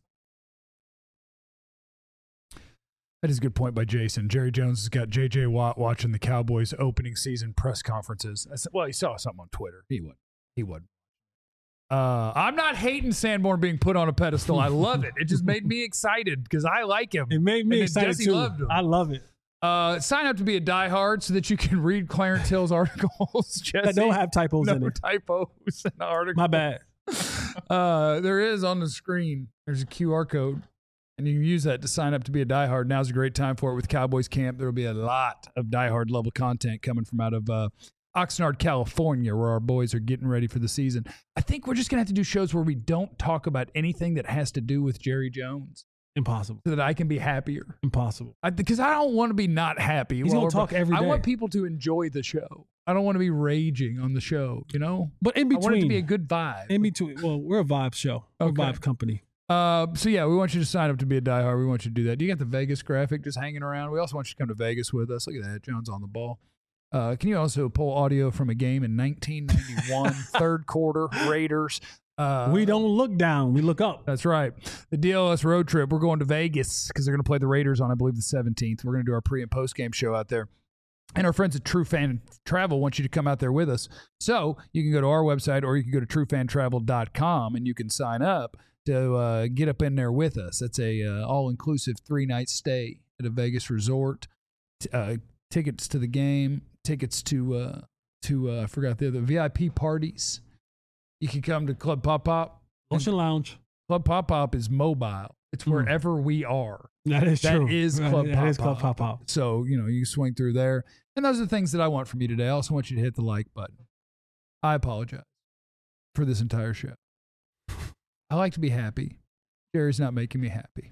That is a good point by Jason. Jerry Jones has got J.J. Watt watching the Cowboys opening season press conferences. I said, well, he saw something on Twitter. He would. I'm not hating Sanborn being put on a pedestal. I love it. It just made me excited because I like him. It made me And excited Jesse too. loved him. I love it. Sign up to be a diehard so that you can read Clarence Hill's articles. Jesse. That don't have typos in No it. typos in the article. My bad. There is on the screen. There's a QR code, and you can use that to sign up to be a diehard. Now's a great time for it with Cowboys Camp. There will be a lot of diehard level content coming from out of Oxnard, California, where our boys are getting ready for the season. I think we're just going to have to do shows where we don't talk about anything that has to do with Jerry Jones. Impossible. So that I can be happier. Impossible. Because I don't want to be not happy. He's going to talk every day. I want people to enjoy the show. I don't want to be raging on the show, you know? But in between. I want it to be a good vibe. In between. Well, we're a vibe show. We're a vibe company. So, yeah, we want you to sign up to be a diehard. We want you to do that. Do you got the Vegas graphic just hanging around? We also want you to come to Vegas with us. Look at that. Jones on the ball. Can you also pull audio from a game in 1991, third quarter, Raiders? We don't look down. We look up. That's right. The DLS road trip. We're going to Vegas because they're going to play the Raiders on, I believe, the 17th. We're going to do our pre- and post-game show out there. And our friends at True Fan Travel want you to come out there with us. So you can go to our website or you can go to truefantravel.com and you can sign up to get up in there with us. That's a all-inclusive 3-night stay at a Vegas resort. Tickets to the game, tickets to I forgot the other VIP parties. You can come to Club Pop Pop. Ocean Lounge. Club Pop Pop is mobile. It's wherever we are. That is true. That is Club Pop Pop. That is Club Pop Pop. So, you know, you swing through there. And those are the things that I want from you today. I also want you to hit the like button. I apologize for this entire show. I like to be happy. Jerry's not making me happy.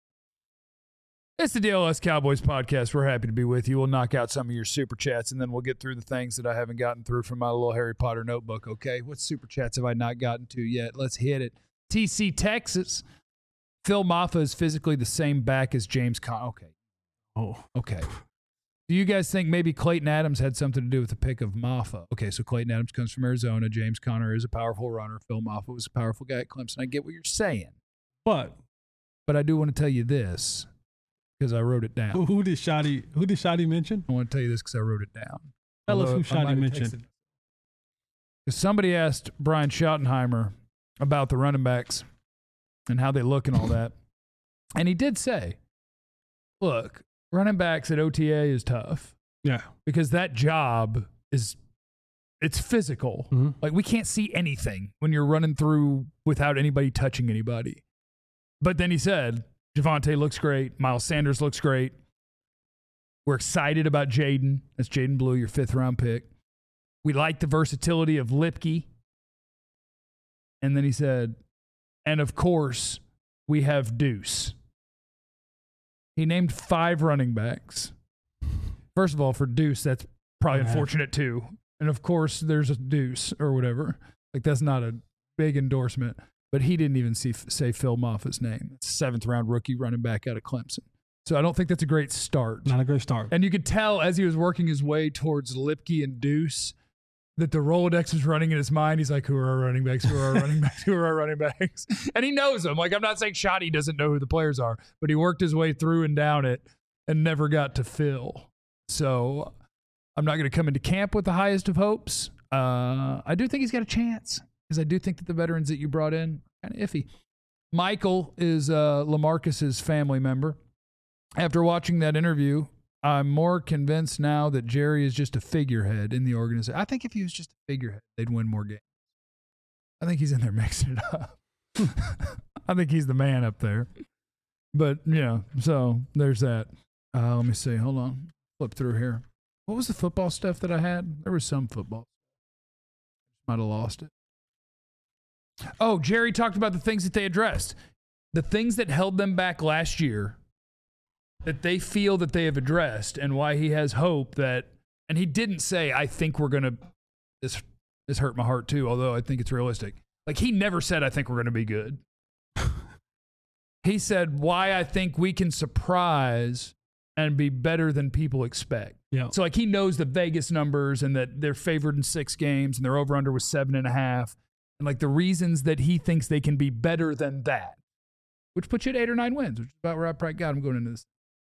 It's the DLS Cowboys podcast. We're happy to be with you. We'll knock out some of your super chats, and then we'll get through the things that I haven't gotten through from my little Harry Potter notebook, okay? What super chats have I not gotten to yet? Let's hit it. TC, Texas. Phil Maffa is physically the same back as James Conner. Okay. Oh. Okay. Do you guys think maybe Clayton Adams had something to do with the pick of Maffa? Okay, so Clayton Adams comes from Arizona. James Conner is a powerful runner. Phil Maffa was a powerful guy at Clemson. I get what you're saying. But I do want to tell you this. Because I wrote it down. Who did Shotty mention? I want to tell you this because I wrote it down. Tell us who Shotty mentioned. Somebody asked Brian Schottenheimer about the running backs and how they look and all that. And he did say, look, running backs at OTA is tough. Yeah. Because that job it's physical. Mm-hmm. Like we can't see anything when you're running through without anybody touching anybody. But then he said, Javonte looks great. Miles Sanders looks great. We're excited about Jaden. That's Jaden Blue, your 5th-round pick. We like the versatility of Lipke. And then he said, and of course, we have Deuce. He named 5 running backs. First of all, for Deuce, that's probably unfortunate too. And of course, there's a Deuce or whatever. Like that's not a big endorsement. But he didn't even say Phil Maffa's name. It's a 7th-round rookie running back out of Clemson. So I don't think that's a great start. Not a great start. And you could tell as he was working his way towards Lipke and Deuce that the Rolodex was running in his mind. He's like, who are our running backs? Who are our running backs? Who are our running backs? And he knows them. Like, I'm not saying Shotty doesn't know who the players are, but he worked his way through and down it and never got to Phil. So I'm not going to come into camp with the highest of hopes. I do think he's got a chance. Because I do think that the veterans that you brought in are kind of iffy. Michael is LaMarcus's family member. After watching that interview, I'm more convinced now that Jerry is just a figurehead in the organization. I think if he was just a figurehead, they'd win more games. I think he's in there mixing it up. I think he's the man up there. But, yeah, so there's that. Let me see. Hold on. Flip through here. What was the football stuff that I had? There was some football. Might have lost it. Oh, Jerry talked about the things that they addressed. The things that held them back last year that they feel that they have addressed and why he has hope that, and he didn't say, I think we're going to, this hurt my heart too, although I think it's realistic. Like he never said, I think we're going to be good. He said why I think we can surprise and be better than people expect. Yeah. So like he knows the Vegas numbers and that they're favored in 6 games and their over-under was 7.5. And like the reasons that he thinks they can be better than that, which puts you at 8 or 9 wins, which is about where I probably got him going into this.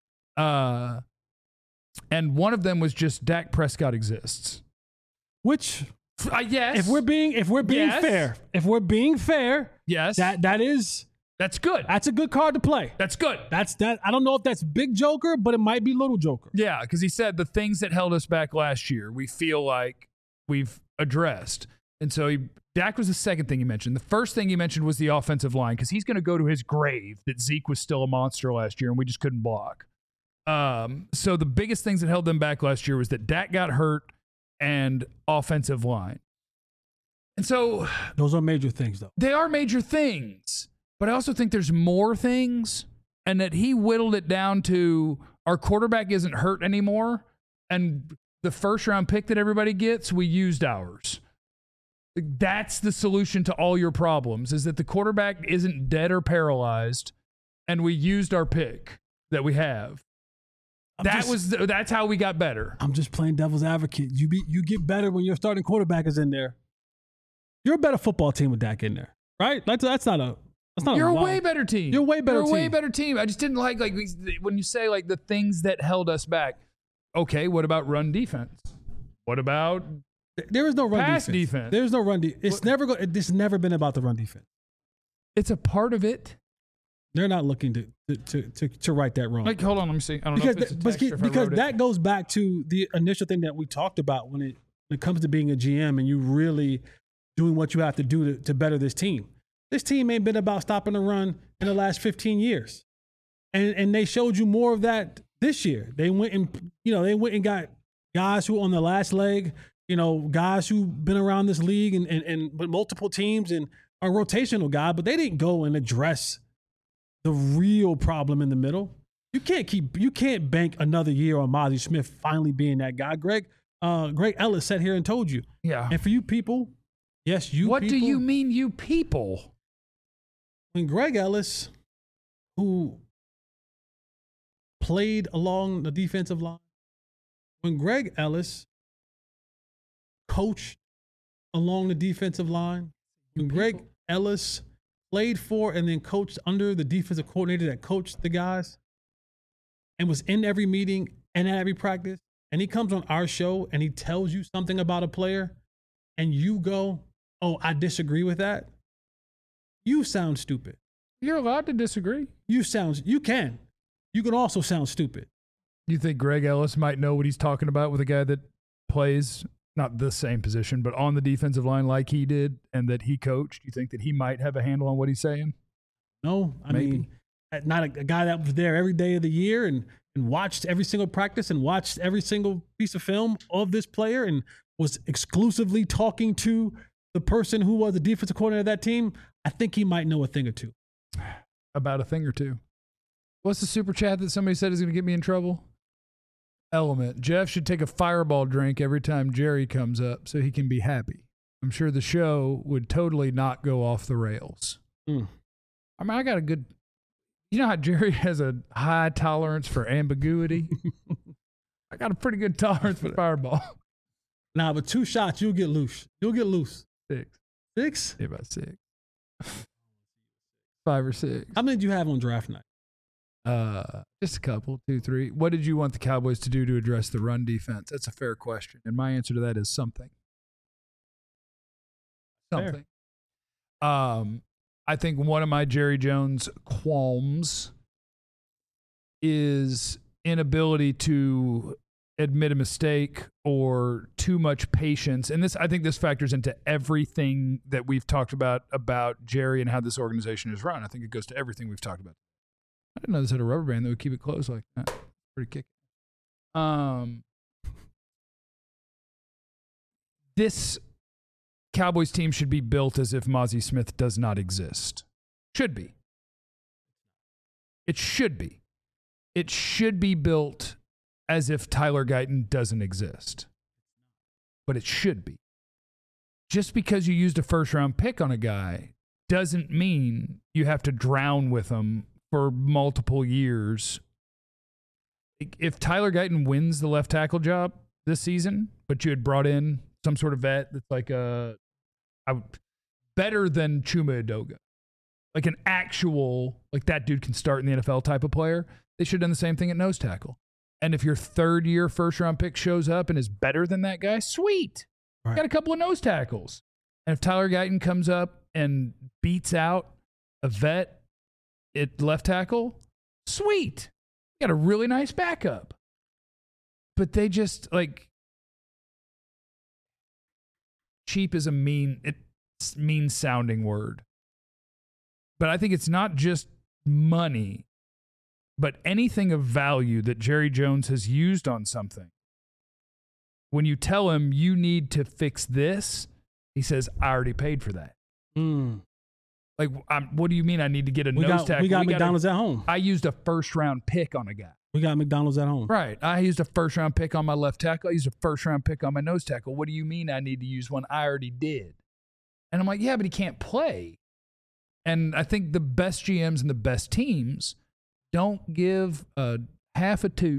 And one of them was just Dak Prescott exists. Which, yes. if we're being Yes. fair, yes, That's good. That's a good card to play. That's good. That's that. I don't know if that's big Joker, but it might be little Joker. Yeah, because he said the things that held us back last year, we feel like we've addressed. And so Dak was the second thing he mentioned. The first thing he mentioned was the offensive line, because he's going to go to his grave that Zeke was still a monster last year and we just couldn't block. So the biggest things that held them back last year was that Dak got hurt and offensive line. And so those are major things, though. They are major things. But I also think there's more things, and that he whittled it down to our quarterback isn't hurt anymore, and the first-round pick that everybody gets, we used ours. That's the solution to all your problems, is that the quarterback isn't dead or paralyzed, and we used our pick that we have. That's how we got better. I'm just playing devil's advocate. You get better when your starting quarterback is in there. You're a better football team with Dak in there, right? That's not a... You're a way better team. You're a way better team. I just didn't like when you say like the things that held us back. Okay, what about run defense? What about there is no run pass defense? There's no run defense. It's never been about the run defense. It's a part of it. They're not looking to right that wrong. Like, hold on, let me see. I don't know if it's a text or if because I wrote that it. goes back to the initial thing that we talked about when it comes to being a GM and you really doing what you have to do to better this team. This team ain't been about stopping the run in the last 15 years. And they showed you more of that this year. They went and got guys who on the last leg, guys who've been around this league and with multiple teams and are rotational guy, but they didn't go and address the real problem in the middle. You can't bank another year on Mazi Smith finally being that guy. Greg Ellis sat here and told you. Yeah. And for you people, yes, What do you mean, you people? When Greg Ellis, who played along the defensive line, when Greg Ellis coached along the defensive line, when Greg Ellis played for and then coached under the defensive coordinator that coached the guys and was in every meeting and at every practice, and he comes on our show and he tells you something about a player and you go, oh, I disagree with that. You sound stupid. You're allowed to disagree. You can. You can also sound stupid. You think Greg Ellis might know what he's talking about with a guy that plays not the same position, but on the defensive line like he did and that he coached? You think that he might have a handle on what he's saying? No, I mean, not a guy that was there every day of the year and watched every single practice and watched every single piece of film of this player and was exclusively talking to the person who was the defensive coordinator of that team. I think he might know a thing or two. About a thing or two. What's the super chat that somebody said is going to get me in trouble? Element. Jeff should take a Fireball drink every time Jerry comes up so he can be happy. I'm sure the show would totally not go off the rails. I mean, I got a good... You know how Jerry has a high tolerance for ambiguity? I got a pretty good tolerance for Fireball. Nah, but 2 shots, you'll get loose. 6. 6? Yeah, about 6. 5 or 6. How many did you have on draft night? Just a couple, 2, 3. What did you want the Cowboys to do to address the run defense? That's a fair question. And my answer to that is something. Something. I think one of my Jerry Jones qualms is inability to admit a mistake or too much patience. And I think this factors into everything that we've talked about Jerry and how this organization is run. I think it goes to everything we've talked about. I didn't know this had a rubber band that would keep it closed like that. Pretty kick. This Cowboys team should be built as if Mazi Smith does not exist. Should be. It should be. It should be built as if Tyler Guyton doesn't exist. But it should be. Just because you used a first-round pick on a guy doesn't mean you have to drown with him for multiple years. If Tyler Guyton wins the left tackle job this season, but you had brought in some sort of vet that's like better than Chuma Edoga, like an actual, like that dude can start in the NFL type of player, they should have done the same thing at nose tackle. And if your third-year first-round pick shows up and is better than that guy, sweet. Right. Got a couple of nose tackles. And if Tyler Guyton comes up and beats out a vet at left tackle, sweet. You got a really nice backup. But they just, like, cheap is a mean sounding word. But I think it's not just money, but anything of value that Jerry Jones has used on something. When you tell him you need to fix this, he says, I already paid for that. Like, what do you mean I need to get a nose tackle? We got McDonald's at home. I used a first-round pick on a guy. We got McDonald's at home. Right. I used a first-round pick on my left tackle. I used a first-round pick on my nose tackle. What do you mean I need to use one? I already did. And I'm like, yeah, but he can't play. And I think the best GMs and the best teams don't give a half a toot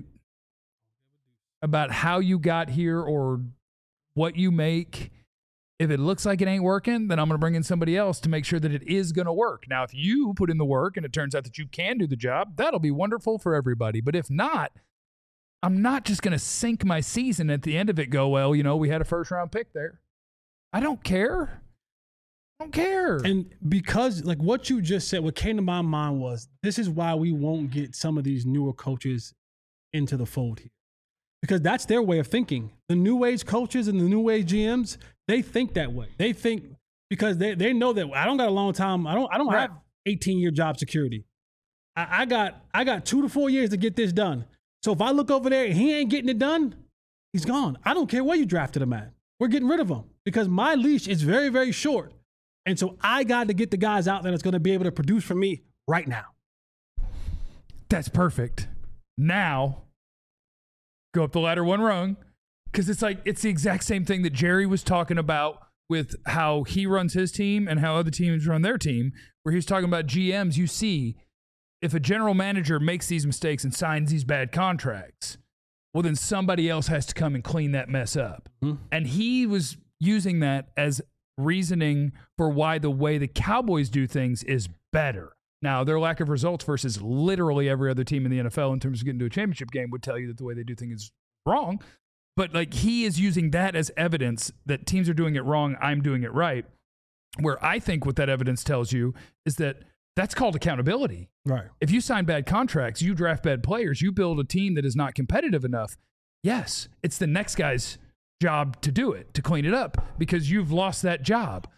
about how you got here or what you make. If it looks like it ain't working, then I'm going to bring in somebody else to make sure that it is going to work. Now, if you put in the work and it turns out that you can do the job, that'll be wonderful for everybody. But if not, I'm not just going to sink my season at the end of it, go, well, you know, we had a first-round pick there. I don't care. I don't care. And because, like, what you just said, what came to my mind was, this is why we won't get some of these newer coaches into the fold here. Because that's their way of thinking. The new age coaches and the new age GMs, they think that way. They think because they know that I don't got a long time. I don't have 18-year job security. I got 2 to 4 years to get this done. So if I look over there and he ain't getting it done, he's gone. I don't care where you drafted him at. We're getting rid of him because my leash is very, very short. And so I got to get the guys out there that's going to be able to produce for me right now. That's perfect. Now, go up the ladder one rung, because it's like it's the exact same thing that Jerry was talking about with how he runs his team and how other teams run their team, where he's talking about GMs. You see, if a general manager makes these mistakes and signs these bad contracts, well, then somebody else has to come and clean that mess up. Mm-hmm. And he was using that as reasoning for why the way the Cowboys do things is better. Now, their lack of results versus literally every other team in the NFL in terms of getting to a championship game would tell you that the way they do things is wrong. But, like, he is using that as evidence that teams are doing it wrong, I'm doing it right. Where I think what that evidence tells you is that that's called accountability. Right. If you sign bad contracts, you draft bad players, you build a team that is not competitive enough, yes, it's the next guy's job to do it, to clean it up, because you've lost that job.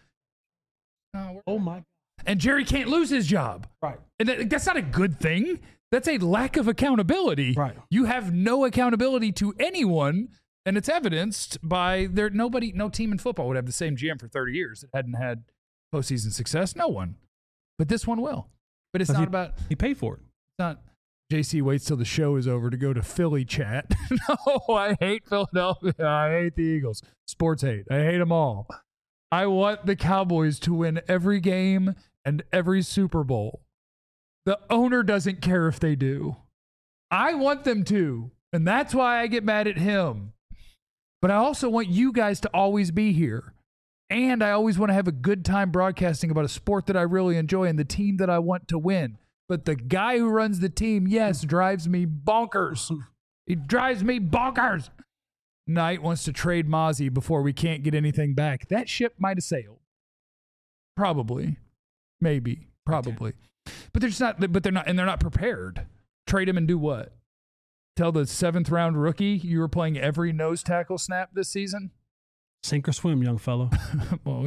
Oh, my. And Jerry can't lose his job. Right. And that's not a good thing. That's a lack of accountability. Right. You have no accountability to anyone, and it's evidenced by no team in football would have the same GM for 30 years that hadn't had postseason success. No one. But this one will. But it's not about... He paid for it. It's not... JC waits till the show is over to go to Philly chat. No, I hate Philadelphia. I hate the Eagles. Sports hate. I hate them all. I want the Cowboys to win every game and every Super Bowl. The owner doesn't care if they do. I want them to, and that's why I get mad at him. But I also want you guys to always be here. And I always want to have a good time broadcasting about a sport that I really enjoy and the team that I want to win. But the guy who runs the team, yes, drives me bonkers. He drives me bonkers. Knight wants to trade Mozzie before we can't get anything back. That ship might have sailed. Probably. Maybe. Probably. Okay. But they're not prepared. Trade him and do what? Tell the 7th round rookie you were playing every nose tackle snap this season? Sink or swim, young fellow. Well,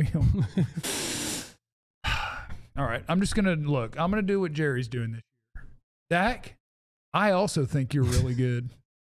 all right, I'm just going to look. I'm going to do what Jerry's doing this year. Dak, I also think you're really good.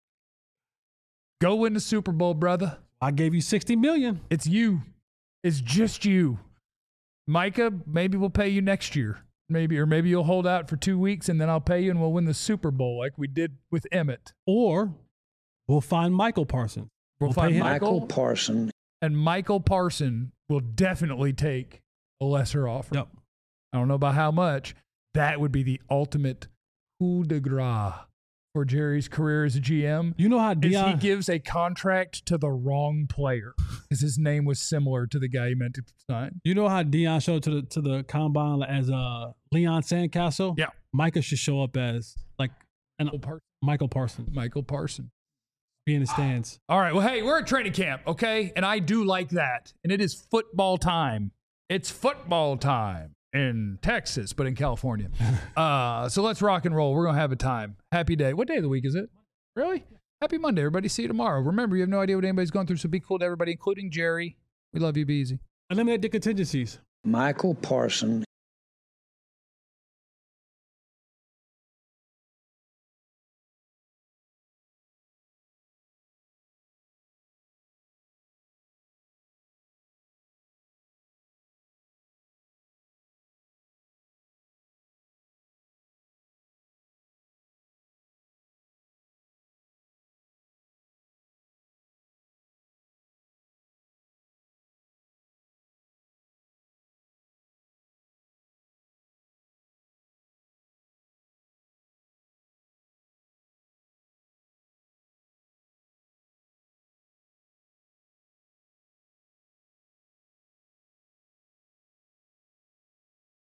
Go win the Super Bowl, brother. I gave you $60 million. It's you. It's just you. Micah, maybe we'll pay you next year. Maybe you'll hold out for 2 weeks and then I'll pay you and we'll win the Super Bowl like we did with Emmett. Or we'll find Michael Parsons. We'll find Michael Parsons. And Michael Parsons will definitely take a lesser offer. Yep. I don't know about how much. That would be the ultimate coup de grace for Jerry's career as a GM. You know how Deion... he gives a contract to the wrong player because his name was similar to the guy he meant to sign. You know how Deion showed to the combine as Leon Sandcastle? Yeah. Micah should show up as like Michael Parsons. Michael Parsons. Be in the stands. All right. Well, hey, we're at training camp, okay? And I do like that. And it is football time. It's football time. in Texas, but in California. So let's rock and roll. We're going to have a time. Happy day. What day of the week is it? Really? Happy Monday, everybody. See you tomorrow. Remember, you have no idea what anybody's going through, so be cool to everybody, including Jerry. We love you. Be easy. Eliminate the contingencies. Michael Parsons